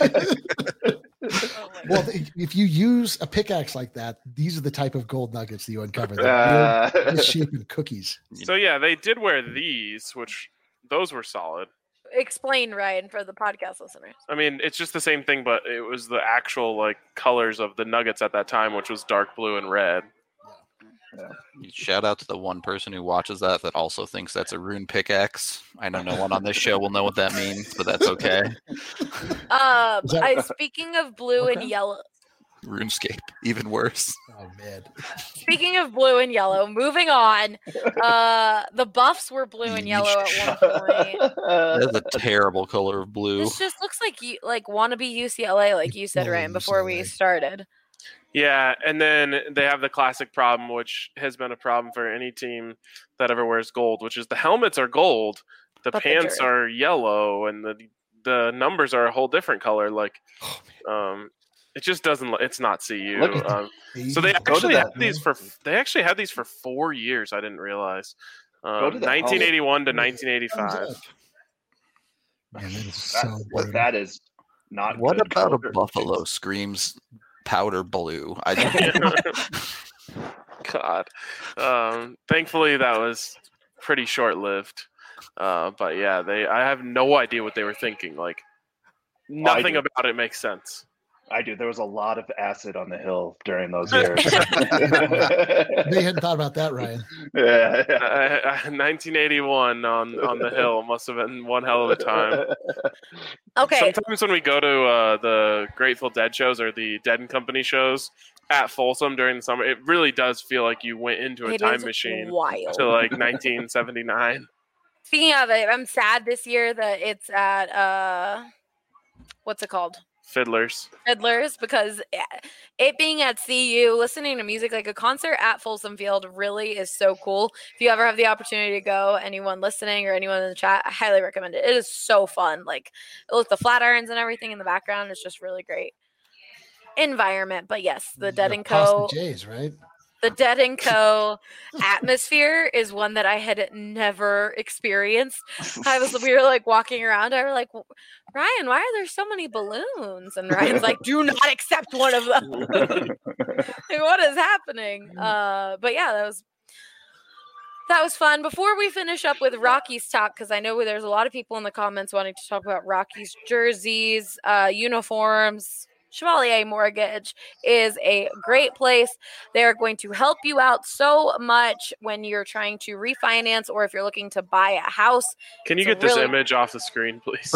Oh my Well, th- if you use a pickaxe like that, these are the type of gold nuggets that you uncover. They're Uh, weird, misshapen cookies. So yeah, they did wear these, which those were solid. Explain, Ryan, for the podcast listeners. I mean, it's just the same thing, but it was the actual like colors of the Nuggets at that time, which was dark blue and red. Shout out to the one person who watches that that also thinks that's a rune pickaxe. I know no one on this show will know what that means, but that's okay. Um, Is that- I, speaking of blue Okay. and yellow, RuneScape, even worse. Oh man, speaking of blue and yellow, moving on. Uh, the Buffs were blue and yellow at one point. That's a terrible color of blue. This just looks like you like wannabe U C L A, like you said, Oh, Ryan, before we U C L A. started. Yeah, and then they have the classic problem, which has been a problem for any team that ever wears gold, which is the helmets are gold, the But the pants jersey- are yellow, and the the numbers are a whole different color. Like, Oh, um, it just doesn't. It's not C U. Look at Um, so they Go to actually that, had these for they actually had these for four years. I didn't realize. Go Um, to that. nineteen eighty-one to Thumbs nineteen eighty-five. up. Man, that is That, so what weird. that is not. What good about a color. buffalo screams powder blue? I God. Um, thankfully, that was pretty short lived. Uh, but yeah, they. I have no idea what they were thinking. Like, nothing do. about it makes sense. I do. There was a lot of acid on the hill during those years. They hadn't thought about that, Ryan. yeah, yeah. Uh, uh, nineteen eighty-one on on the hill must have been one hell of a time. Okay, Sometimes when we go to uh, the Grateful Dead shows or the Dead and Company shows at Folsom during the summer, it really does feel like you went into a it time is machine wild. to like nineteen seventy-nine. Speaking of it, I'm sad this year that it's at uh, what's it called? Fiddlers. Fiddlers, because it being at C U, listening to music, like a concert at Folsom Field really is so cool. If you ever have the opportunity to go, anyone listening or anyone in the chat, I highly recommend it. It is so fun. Like, look, the Flatirons and everything in the background is just really great environment. But yes, the Dead and Co. Jays, right? The Dead and Co. atmosphere is one that I had never experienced. I was, we were like walking around. I was like, Ryan, why are there so many balloons? And Ryan's like, do not accept one of them. Like, what is happening? Uh, but yeah, that was that was fun. Before we finish up with Rockies talk, because I know there's a lot of people in the comments wanting to talk about Rockies jerseys, uh, uniforms. Chevalier Mortgage is a great place. They're going to help you out so much when you're trying to refinance or if you're looking to buy a house. Can you It's get this really- image off the screen, please?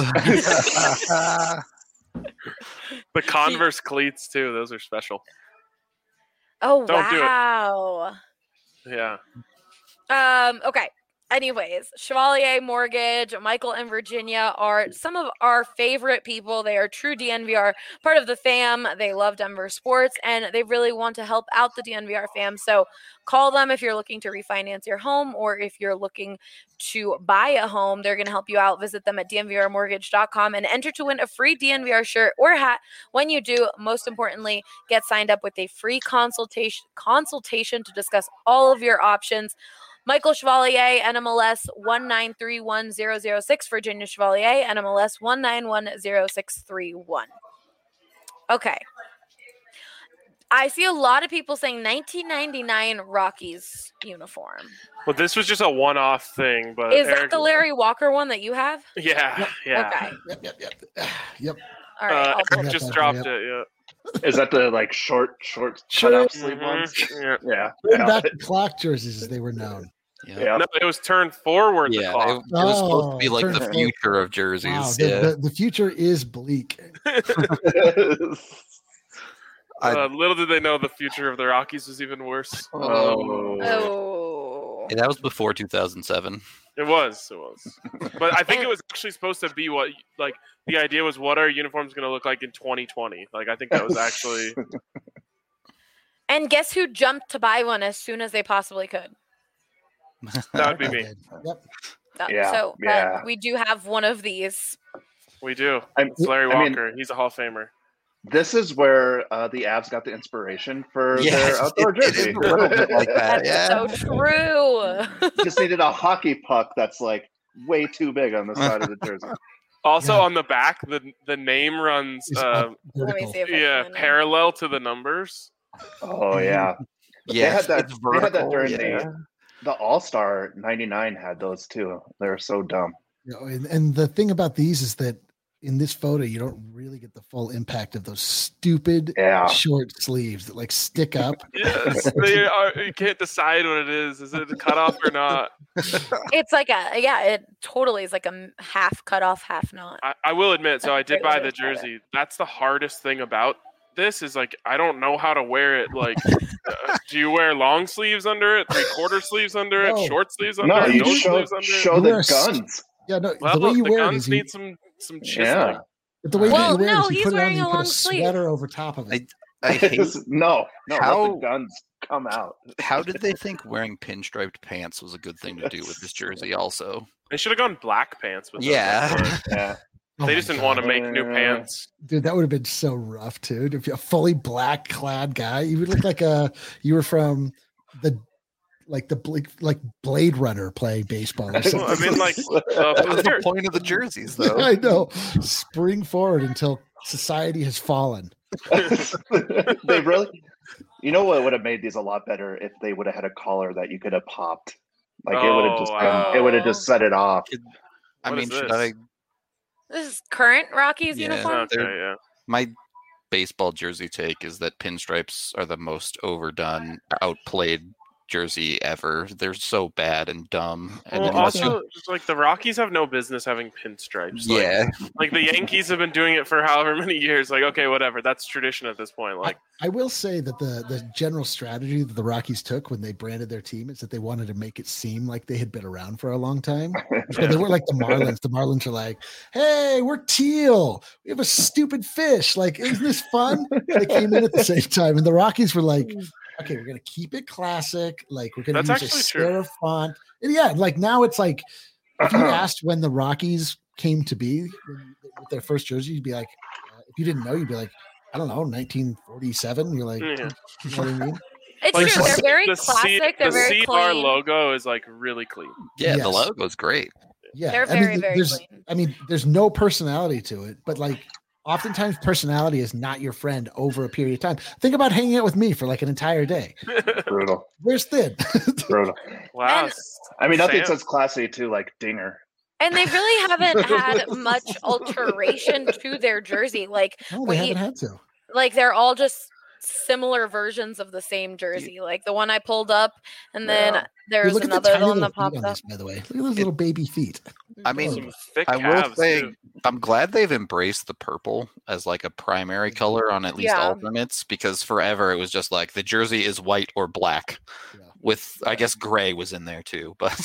The Converse cleats too; those are special. Oh, Don't do it. wow. Yeah. Um, okay. Anyways, Chevalier Mortgage, Michael and Virginia are some of our favorite people. They are true D N V R, part of the fam. They love Denver sports, and they really want to help out the D N V R fam. So call them if you're looking to refinance your home or if you're looking to buy a home. They're going to help you out. Visit them at d n v r mortgage dot com and enter to win a free D N V R shirt or hat. When you do, most importantly, get signed up with a free consultation consultation to discuss all of your options. Michael Chevalier, N M L S one nine three one zero zero six, Virginia Chevalier, N M L S one nine one zero six three one. Okay. I see a lot of people saying nineteen ninety-nine Rockies uniform. Well, this was just a one-off thing, but Is that Eric- the Larry Walker one that you have? Yeah, yeah. Okay. Yep, yep, yep. Yep. All right. Uh, I'll pull Eric that just back, dropped yep. it. Yeah. Is that the like short, short Sure. cut off sleeve Mhm, ones? yeah. Yeah. Going yeah. back to clock jerseys as they were known. Yeah. Yeah. No, it was turned forward. Yeah, the it, clock. it was supposed to be Oh, like turn the it- future of jerseys. Wow, the, yeah. the, the future is bleak. I- Uh, little did they know the future of the Rockies was even worse. oh. Oh. Hey, that was before two thousand seven. It was, it was. But I think it was actually supposed to be what, like, the idea was what are uniforms going to look like in twenty twenty? Like, I think that was actually. And guess who jumped to buy one as soon as they possibly could? That would be me. Yep. Uh, Yeah, so uh, yeah. we do have one of these. We do. I'm- It's Larry I mean, Walker. He's a Hall of Famer. This is where uh, the Avs got the inspiration for Yeah, their outdoor it- it is jersey. a little bit like that. That's yeah. so true. Just needed a hockey puck that's like way too big on the side of the jersey. Also Yeah. on the back, the the name runs, It's uh, up Let me vertical. see if I yeah, can. parallel to the numbers. Oh yeah, Yeah, they had that. it's They had that vertical, during yeah. the the All Star ninety-nine had those too. They were so dumb. You know, and, and the thing about these is that in this photo, you don't really get the full impact of those stupid Yeah. short sleeves that like stick up. Yes, they are, you can't decide what it is. Is it a cutoff or not? It's like a yeah, it totally is like a m- half cut off, half not. I, I will admit, so I did Great buy way the to describe it. jersey. That's the hardest thing about this is like I don't know how to wear it. Like, uh, do you wear long sleeves under it, three quarter sleeves under it, No. short sleeves under No, it, you no show sleeves under show it? You wear the a st- guns. Yeah, no, Well, the way you the wear it guns is you, need some some chiseling. Yeah. but the way Well, that you wear no, it is you he's put it on wearing and you a put a long sleeve. sweater over top of it. I hate. no, no, let How- the guns come out. How did they think wearing pinstriped pants was a good thing to do with this jersey? Also, They should have gone black pants with those, Yeah. but Yeah. Oh They my just didn't God. want to make new Uh, pants. Dude, that would have been so rough, dude. If you're a fully black clad guy, you would look like a you were from the like the Bla- like Blade Runner playing baseball or Well, something. I mean, like, uh, that was the here- point of the jerseys, though. I know. Spring forward until society has fallen. they really, you know what would have made these a lot better if they would have had a collar that you could have popped. Like it would have Oh, just, wow. been, it would have just set it off. I What mean, is should this? I? This is current Rockies Yeah. uniform. Okay, They're- yeah. My baseball jersey take is that pinstripes are the most overdone, outplayed jersey ever. They're so bad and dumb. And Well, unless also, just like the Rockies have no business having pinstripes. you, Like, yeah, like the Yankees have been doing it for however many years. Like, okay, whatever. That's tradition at this point. Like, I will say that the the general strategy that the Rockies took when they branded their team is that they wanted to make it seem like they had been around for a long time. So they were like the Marlins. The Marlins are like, "Hey, we're teal. We have a stupid fish. Like, isn't this fun?" They came in at the same time, and the Rockies were like, "Okay, we're gonna keep it classic. Like, we're gonna That's use a actually true. serif font." And yeah, like now it's like if you asked when the Rockies came to be when- with their first jersey, you'd be like, uh, if you didn't know, you'd be like, I don't know, nineteen forty-seven. You're like, Yeah. you know what I mean? It's Like, true. They're very the C- classic. They're the very C R clean. logo is like really clean. Yeah, Yes. the logo's great. Yeah, They're I very, mean, very there's, clean. I mean, there's no personality to it, but like, oftentimes personality is not your friend over a period of time. Think about hanging out with me for like an entire day. Brutal. Where's Thin? Brutal. Wow. And- I mean, nothing Sam. says classy too, like Dinger. And they really haven't had much alteration to their jersey. Like, No, they what haven't you- had to. like they're all just similar versions of the same jersey. Like the one I pulled up, and then Yeah. Dude, there's look at the another tiny one little that feet popped on up. this, by the way. Look at those little baby feet. I mean, Some thick I will calves, say too. I'm glad they've embraced the purple as like a primary color on at least Yeah. alternates, because forever it was just like the jersey is white or black. Yeah. With I guess gray was in there too, but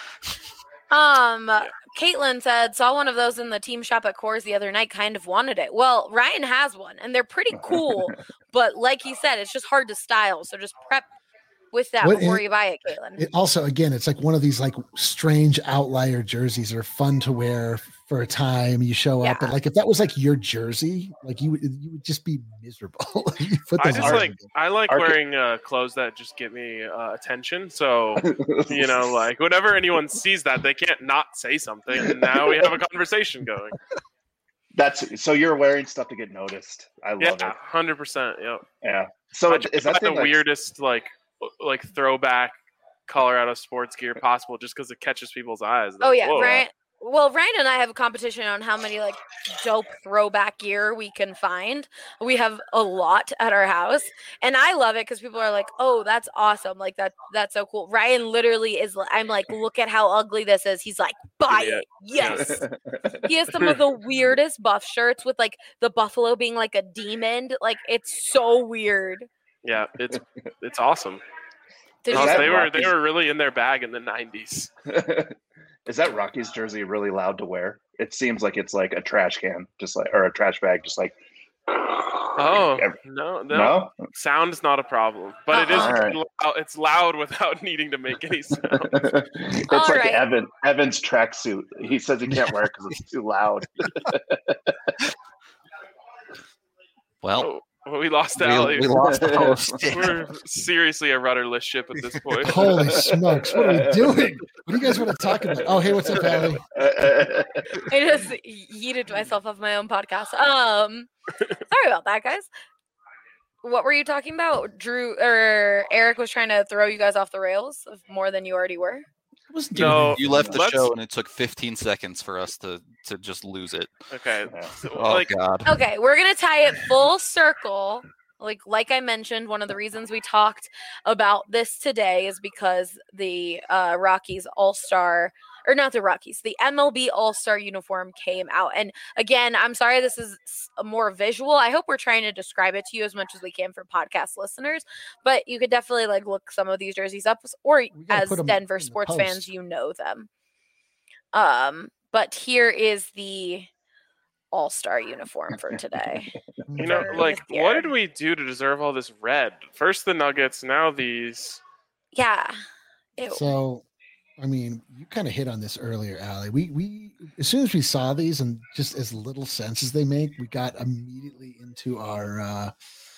Um, Caitlin said, saw one of those in the team shop at Coors the other night, kind of wanted it. Well, Ryan has one, and they're pretty cool, but like he said, it's just hard to style. So just prep with that What- before and- you buy it, Caitlin. It also, again, it's like one of these like strange outlier jerseys that are fun to wear for a time. You show up, Yeah. and like if that was like your jersey, like you would you would just be miserable. You put I those just on. like I like Arca- wearing uh, clothes that just get me uh, attention. So you know, like whenever anyone sees that, they can't not say something. And now we have a conversation going. That's so you're wearing stuff to get noticed. I love Yeah, it. hundred percent. Yeah. Yeah. So I it- just is that buy thing the like, weirdest like like throwback Colorado sports gear possible, just because it catches people's eyes. Oh Like, yeah, whoa. Ryan. Well, Ryan and I have a competition on how many like dope throwback gear we can find. We have a lot at our house, and I love it because people are like, "Oh, that's awesome! Like that, that's so cool." Ryan literally is. li- I'm like, "Look at how ugly this is." He's like, "Buy Yeah. it, yes." He has some of the weirdest buff shirts with like the buffalo being like a demon. Like it's so weird. Yeah, it's it's awesome. Did No, you that they were Rockies- they were really in their bag in the nineties. Is that Rocky's jersey really loud to wear? It seems like it's like a trash can, just like or a trash bag, just like. Oh Ev- no, no, no. sound is not a problem, but it is Uh-uh. Alright. loud, it's loud without needing to make any sound. It's All like right. Evan Evan's tracksuit. He says he can't wear it because it's too loud. well, Oh, we lost we, Allie. we lost the host. We're seriously a rudderless ship at this point. Holy smokes! What are we doing? What do you guys want to talk about? Oh, hey, what's up, Allie? I just yeeted myself off my own podcast. Um, sorry about that, guys. What were you talking about? Drew or Eric was trying to throw you guys off the rails of more than you already were. I wasn't doing No, anything. You left the Let's- show and it took fifteen seconds for us to to just lose it. Okay, Yeah. so, Oh like god. Okay, we're gonna tie it full circle. Like like I mentioned, one of the reasons we talked about this today is because the uh, Rockies All Star, or not the Rockies, the M L B All Star uniform came out. And again, I'm sorry this is s- more visual. I hope we're trying to describe it to you as much as we can for podcast listeners. But you could definitely like look some of these jerseys up, or gotta as put 'em Denver in the sports post. fans, you know them. Um, but here is the All Star uniform for today. you know, for like this what year. did we do to deserve all this red? First the Nuggets, now these. Yeah. Ew. So, I mean, you kind of hit on this earlier, Allie. We we as soon as we saw these and just as little sense as they make, we got immediately into our uh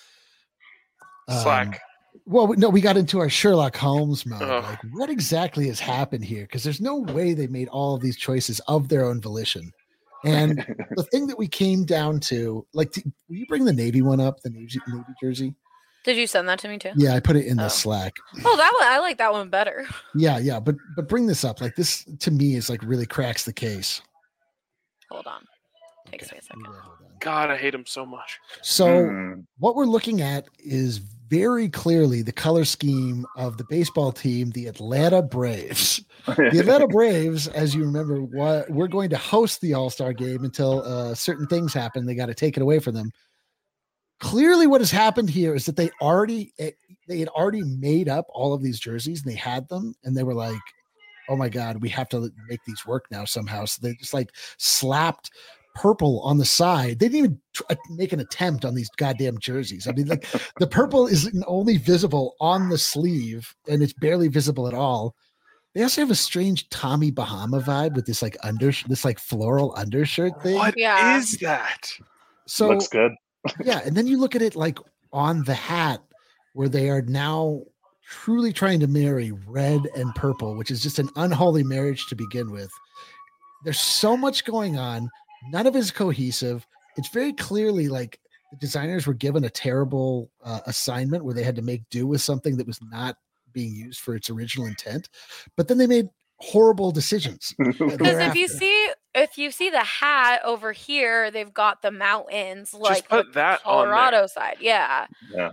um, Slack. well, no, we got into our Sherlock Holmes mode. Ugh. Like, what exactly has happened here? Because there's no way they made all of these choices of their own volition. And the thing that we came down to, like, t- will you bring the Navy one up, the Navy, Navy jersey? Did you send that to me too? Yeah, I put it in the Oh. Slack. Oh, that one I like that one better. Yeah, yeah, but but bring this up. Like, this to me is like really cracks the case. Hold on. Takes me a second. hold on. God, I hate him so much. So Mm. what we're looking at is very clearly the color scheme of the baseball team, the Atlanta Braves. The Atlanta Braves, as you remember, wa- we're going to host the All-Star game until uh, certain things happen. They got to take it away from them. Clearly, what has happened here is that they already eh, they had already made up all of these jerseys and they had them, and they were like, "Oh my God, we have to make these work now somehow." So they just like slapped purple on the side. They didn't even tr- uh, make an attempt on these goddamn jerseys. I mean, like the purple is only visible on the sleeve, and it's barely visible at all. They also have a strange Tommy Bahama vibe with this like under this like floral undershirt thing. What is Yeah. that? So Looks good. yeah, and then you look at it like on the hat where they are now truly trying to marry red and purple, which is just an unholy marriage to begin with. There's so much going on. None of it is cohesive. It's very clearly like the designers were given a terrible uh, assignment where they had to make do with something that was not being used for its original intent. But then they made horrible decisions. Because if you see if you see the hat over here, they've got the mountains like put the that on Colorado there. side. Yeah. Yeah.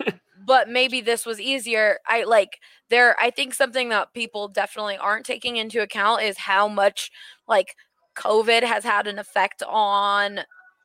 But maybe this was easier. I like there I think something that people definitely aren't taking into account is how much like COVID has had an effect on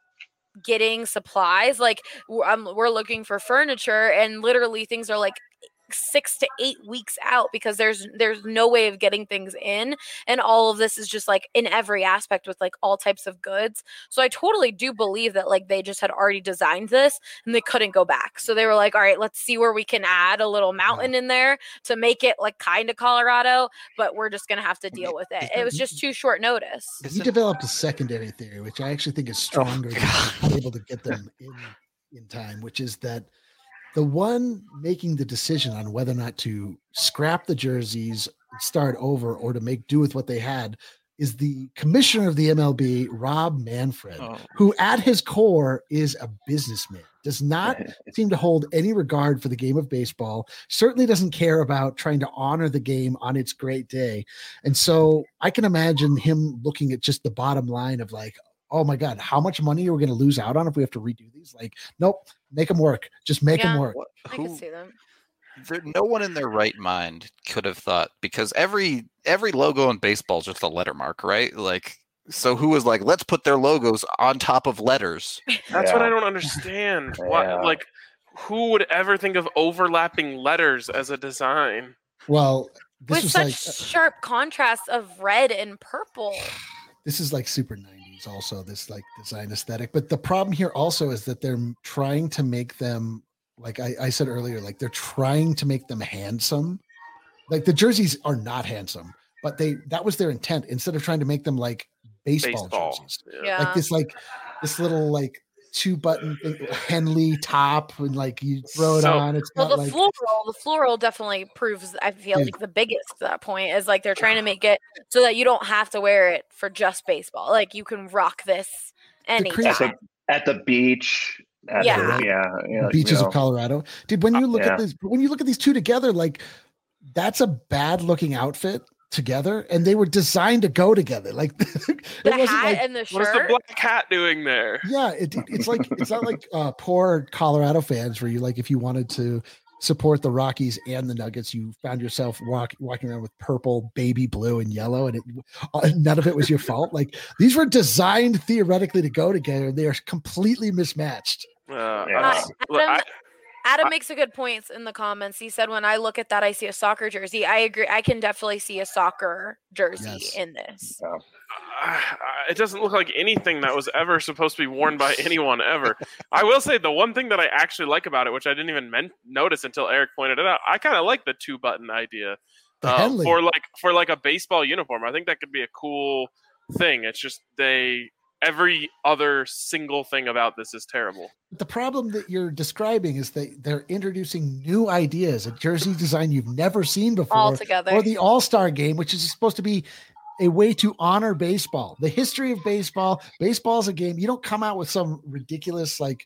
getting supplies. Like we're, um, we're looking for furniture and literally things are like six to eight weeks out because there's there's no way of getting things in, and all of this is just like in every aspect with like all types of goods. So I totally do believe that like they just had already designed this and they couldn't go back, so they were like, all right, let's see where we can add a little mountain in there to make it like kind of Colorado, but we're just gonna have to deal with it. It was just too short notice. He developed a secondary theory, which I actually think is stronger than being able to get them in in time, which is that the one making the decision on whether or not to scrap the jerseys, start over, or to make do with what they had is the commissioner of the M L B, Rob Manfred, Oh. who at his core is a businessman, does not seem to hold any regard for the game of baseball, certainly doesn't care about trying to honor the game on its great day. And so I can imagine him looking at just the bottom line of like, oh my God, how much money are we going to lose out on if we have to redo these? Like, nope, make them work. Just make Yeah. them work. I Who- can see them. there, no one in their right mind could have thought, because every every logo in baseball is just a letter mark, right? Like, so who was like, let's put their logos on top of letters? That's what Yeah. I don't understand. Why, Yeah. like, who would ever think of overlapping letters as a design? Well, this With was such like uh, sharp contrasts of red and purple. this is like super nineties also, this like design aesthetic. But the problem here also is that they're trying to make them, like I, I said earlier, like they're trying to make them handsome. Like the jerseys are not handsome, but they that was their intent instead of trying to make them like baseball, Baseball. jerseys. Yeah. Like this, like this little like two button thing, Henley top, and like you throw it So- on. It's Well, got the like floral, the floral definitely proves. I feel Dude. like the biggest to that point is like they're trying to make it so that you don't have to wear it for just baseball. Like you can rock this anytime. At the, at the beach. At Yeah. The, yeah. yeah, beaches you know. of Colorado. Dude, when you look yeah. at this, when you look at these two together, like that's a bad looking outfit together, and they were designed to go together. Like it The wasn't hat like, and the What is the shirt. black cat doing there? yeah, it, it's like it's not like uh, poor Colorado fans where you like if you wanted to support the Rockies and the Nuggets, you found yourself walk, walking around with purple, baby blue, and yellow, and it uh, none of it was your fault. Like these were designed theoretically to go together, and they are completely mismatched. Uh, Yeah. I- look, Adam, I- Adam makes a good point in the comments. He said, "When I look at that, I see a soccer jersey." I agree. I can definitely see a soccer jersey Yes. in this. I- it doesn't look like anything that was ever supposed to be worn by anyone ever. I will say the one thing that I actually like about it, which I didn't even men- notice until Eric pointed it out, I kind of like the two button idea The uh, Henley. for like for like a baseball uniform. I think that could be a cool thing. It's just they every other single thing about this is terrible. The problem that you're describing is that they're introducing new ideas, a jersey design you've never seen before, All together. or the All-Star game, which is supposed to be a way to honor baseball, the history of baseball. Baseball is a game. You don't come out with some ridiculous, like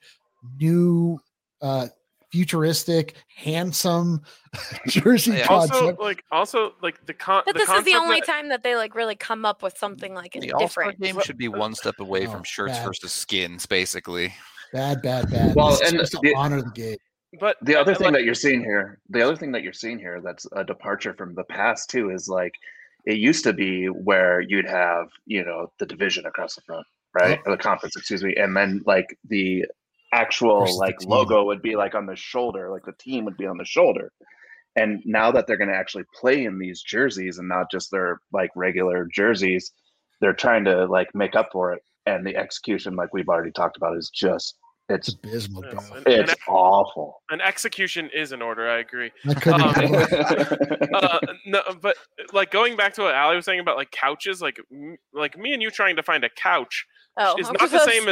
new, uh, futuristic, handsome jersey Yeah. Also, concept. like also like the con. But the this is the concept only that- time that they like really come up with something like The All-Star different. game should be one step away Oh, from shirts bad. versus skins, basically. Bad, bad, bad. Well, This is and supposed to the- honor the game. But The other uh, thing like, that you're seeing here, the other thing that you're seeing here that's a departure from the past too is like it used to be where you'd have, you know, the division across the front, right? Or the conference, excuse me. And then like the actual Versus the like team. logo would be like on the shoulder, like the team would be on the shoulder. And now that they're going to actually play in these jerseys and not just their like regular jerseys, they're trying to like make up for it. And the execution, like we've already talked about, is just It's it's abysmal, bro. Yes, and- it's awful. an execution is in order. I agree. I couldn't Um, agree more. uh, no, but like going back to what Ali was saying about like couches, like m- like me and you trying to find a couch Oh, is I not was the gonna same say- as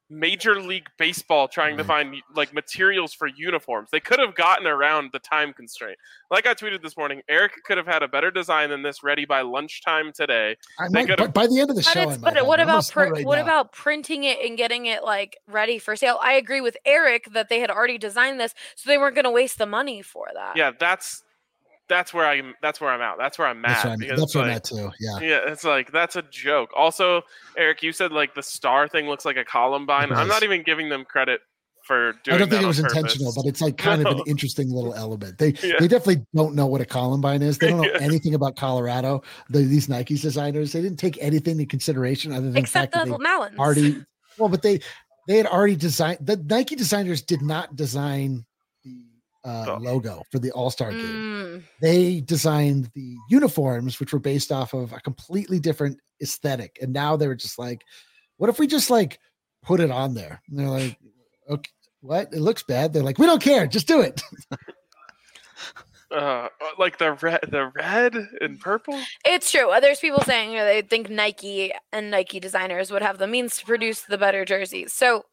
Major League Baseball trying to find like materials for uniforms. They could have gotten around the time constraint. Like I tweeted this morning, Eric could have had a better design than this ready by lunchtime today. I might, but by the end of the But, show, I it's, might but what have. I'm about gonna pr- start right what now. about printing it and getting it like ready for sale? I agree with Eric that they had already designed this, so they weren't going to waste the money for that. Yeah, that's that's where I'm. That's where I'm at. That's where I'm That's at. where I'm, because, that's where I'm like, at too. Yeah. Yeah, it's like that's a joke. Also, Eric, you said like the star thing looks like a Columbine. It I'm not does. even giving them credit for doing I don't that think it on was purpose. intentional, but it's like kind No. of an interesting little element. They Yeah. they definitely don't know what a Columbine is. They don't know Yeah. anything about Colorado. The, these Nike's designers, they didn't take anything into consideration other than Except the the fact that Malins. they already well, but they they had already designed the Nike designers did not design the uh, Oh. logo for the All Star game. Mm. They designed the uniforms, which were based off of a completely different aesthetic. And now they were just like, what if we just like put it on there? And they're like, okay, what? It looks bad. They're like, we don't care. Just do it. Uh, like the red, the red and purple. It's true. Uh, There's people saying uh, they think Nike and Nike designers would have the means to produce the better jerseys. So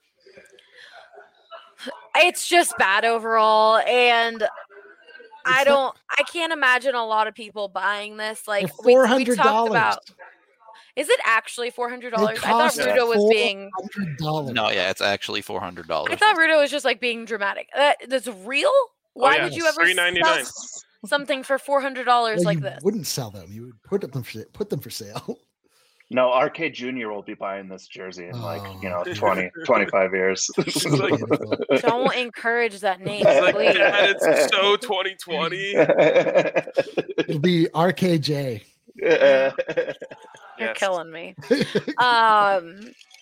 it's just bad overall. And I It's not- don't, I can't imagine a lot of people buying this. Like They're we, we $400. talked about. Is it actually four hundred They dollars? I thought cost Rudo was being. four hundred dollars. No, yeah, it's actually four hundred dollars. I thought Rudo was just like being dramatic. Uh, that's real. Why yeah. would you ever three ninety-nine. sell something for four hundred dollars Well, like you this? wouldn't sell them. You would put them for, put them for sale. No, R K Junior will be buying this jersey in like, you know, Oh. twenty, twenty-five years. It's like- Beautiful. Don't encourage that name, It's like, please. Dad, it's so twenty twenty. It'll be R K J. You're Yes. killing me. Um,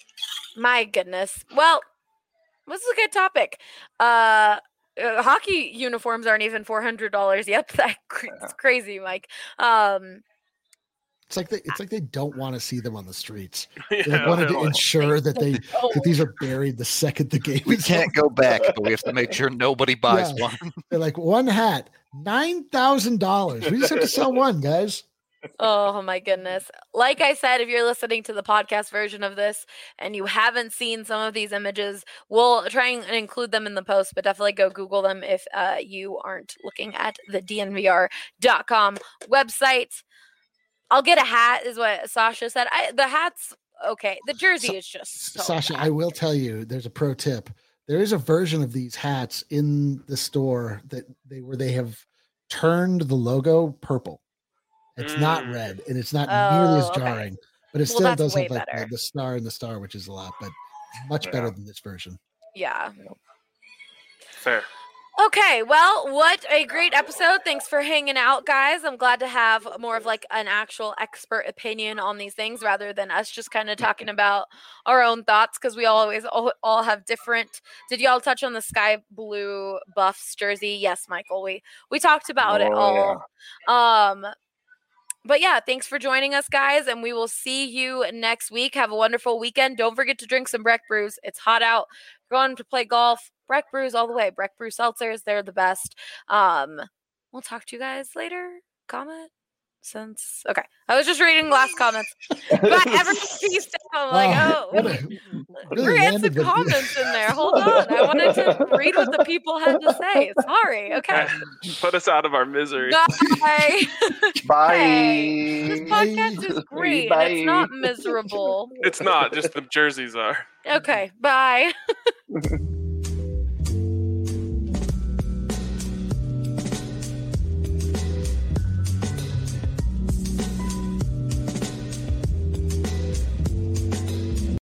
my goodness. Well, this is a good topic. Uh, uh, hockey uniforms aren't even four hundred dollars yet. That it's crazy, Mike. Um, It's like they, it's like they don't want to see them on the streets. Yeah, They wanted to they're like- ensure that they oh, that these are buried the second the game We is can't over. go back, but we have to make sure nobody buys Yeah. one. They're like one hat, nine thousand dollars. We just have to sell one, guys. oh my goodness. Like I said, if you're listening to the podcast version of this and you haven't seen some of these images, we'll try and include them in the post, but definitely go Google them if uh, you aren't looking at the D N V R dot com website. I'll get a hat, is what Sasha said. I, the hat's okay. The jersey Sa- is just so Sasha, bad. I will tell you, there's a pro tip. There is a version of these hats in the store that they where they have turned the logo purple. It's not Mm. red, and it's not nearly as Oh, okay. jarring, but it Well, still that's does way have like the, better. the star and the star, which is a lot, but much better Yeah. than this version. Yeah. Fair. Okay, well, what a great episode. Thanks for hanging out, guys. I'm glad to have more of like an actual expert opinion on these things rather than us just kind of talking about our own thoughts because we always all, all have different. Did y'all touch on the sky blue Buffs jersey? Yes, Michael. We we talked about it Oh, all. Um But yeah, thanks for joining us, guys, and we will see you next week. Have a wonderful weekend. Don't forget to drink some Breck Brews. It's hot out. Going to play golf. Breck Brews all the way. Breck Brew seltzers, they're the best. Um, we'll talk to you guys later. Comment since okay. I was just reading last comments. But everyone peace out. I'm like, Oh, oh, what a- we really had landed some the- comments in there. Hold on. I wanted to read what the people had to say. Sorry. Okay. Put us out of our misery. Bye. Bye. Hey, this podcast is great. and It's not Bye. miserable. It's not, just the jerseys are. Okay. Bye.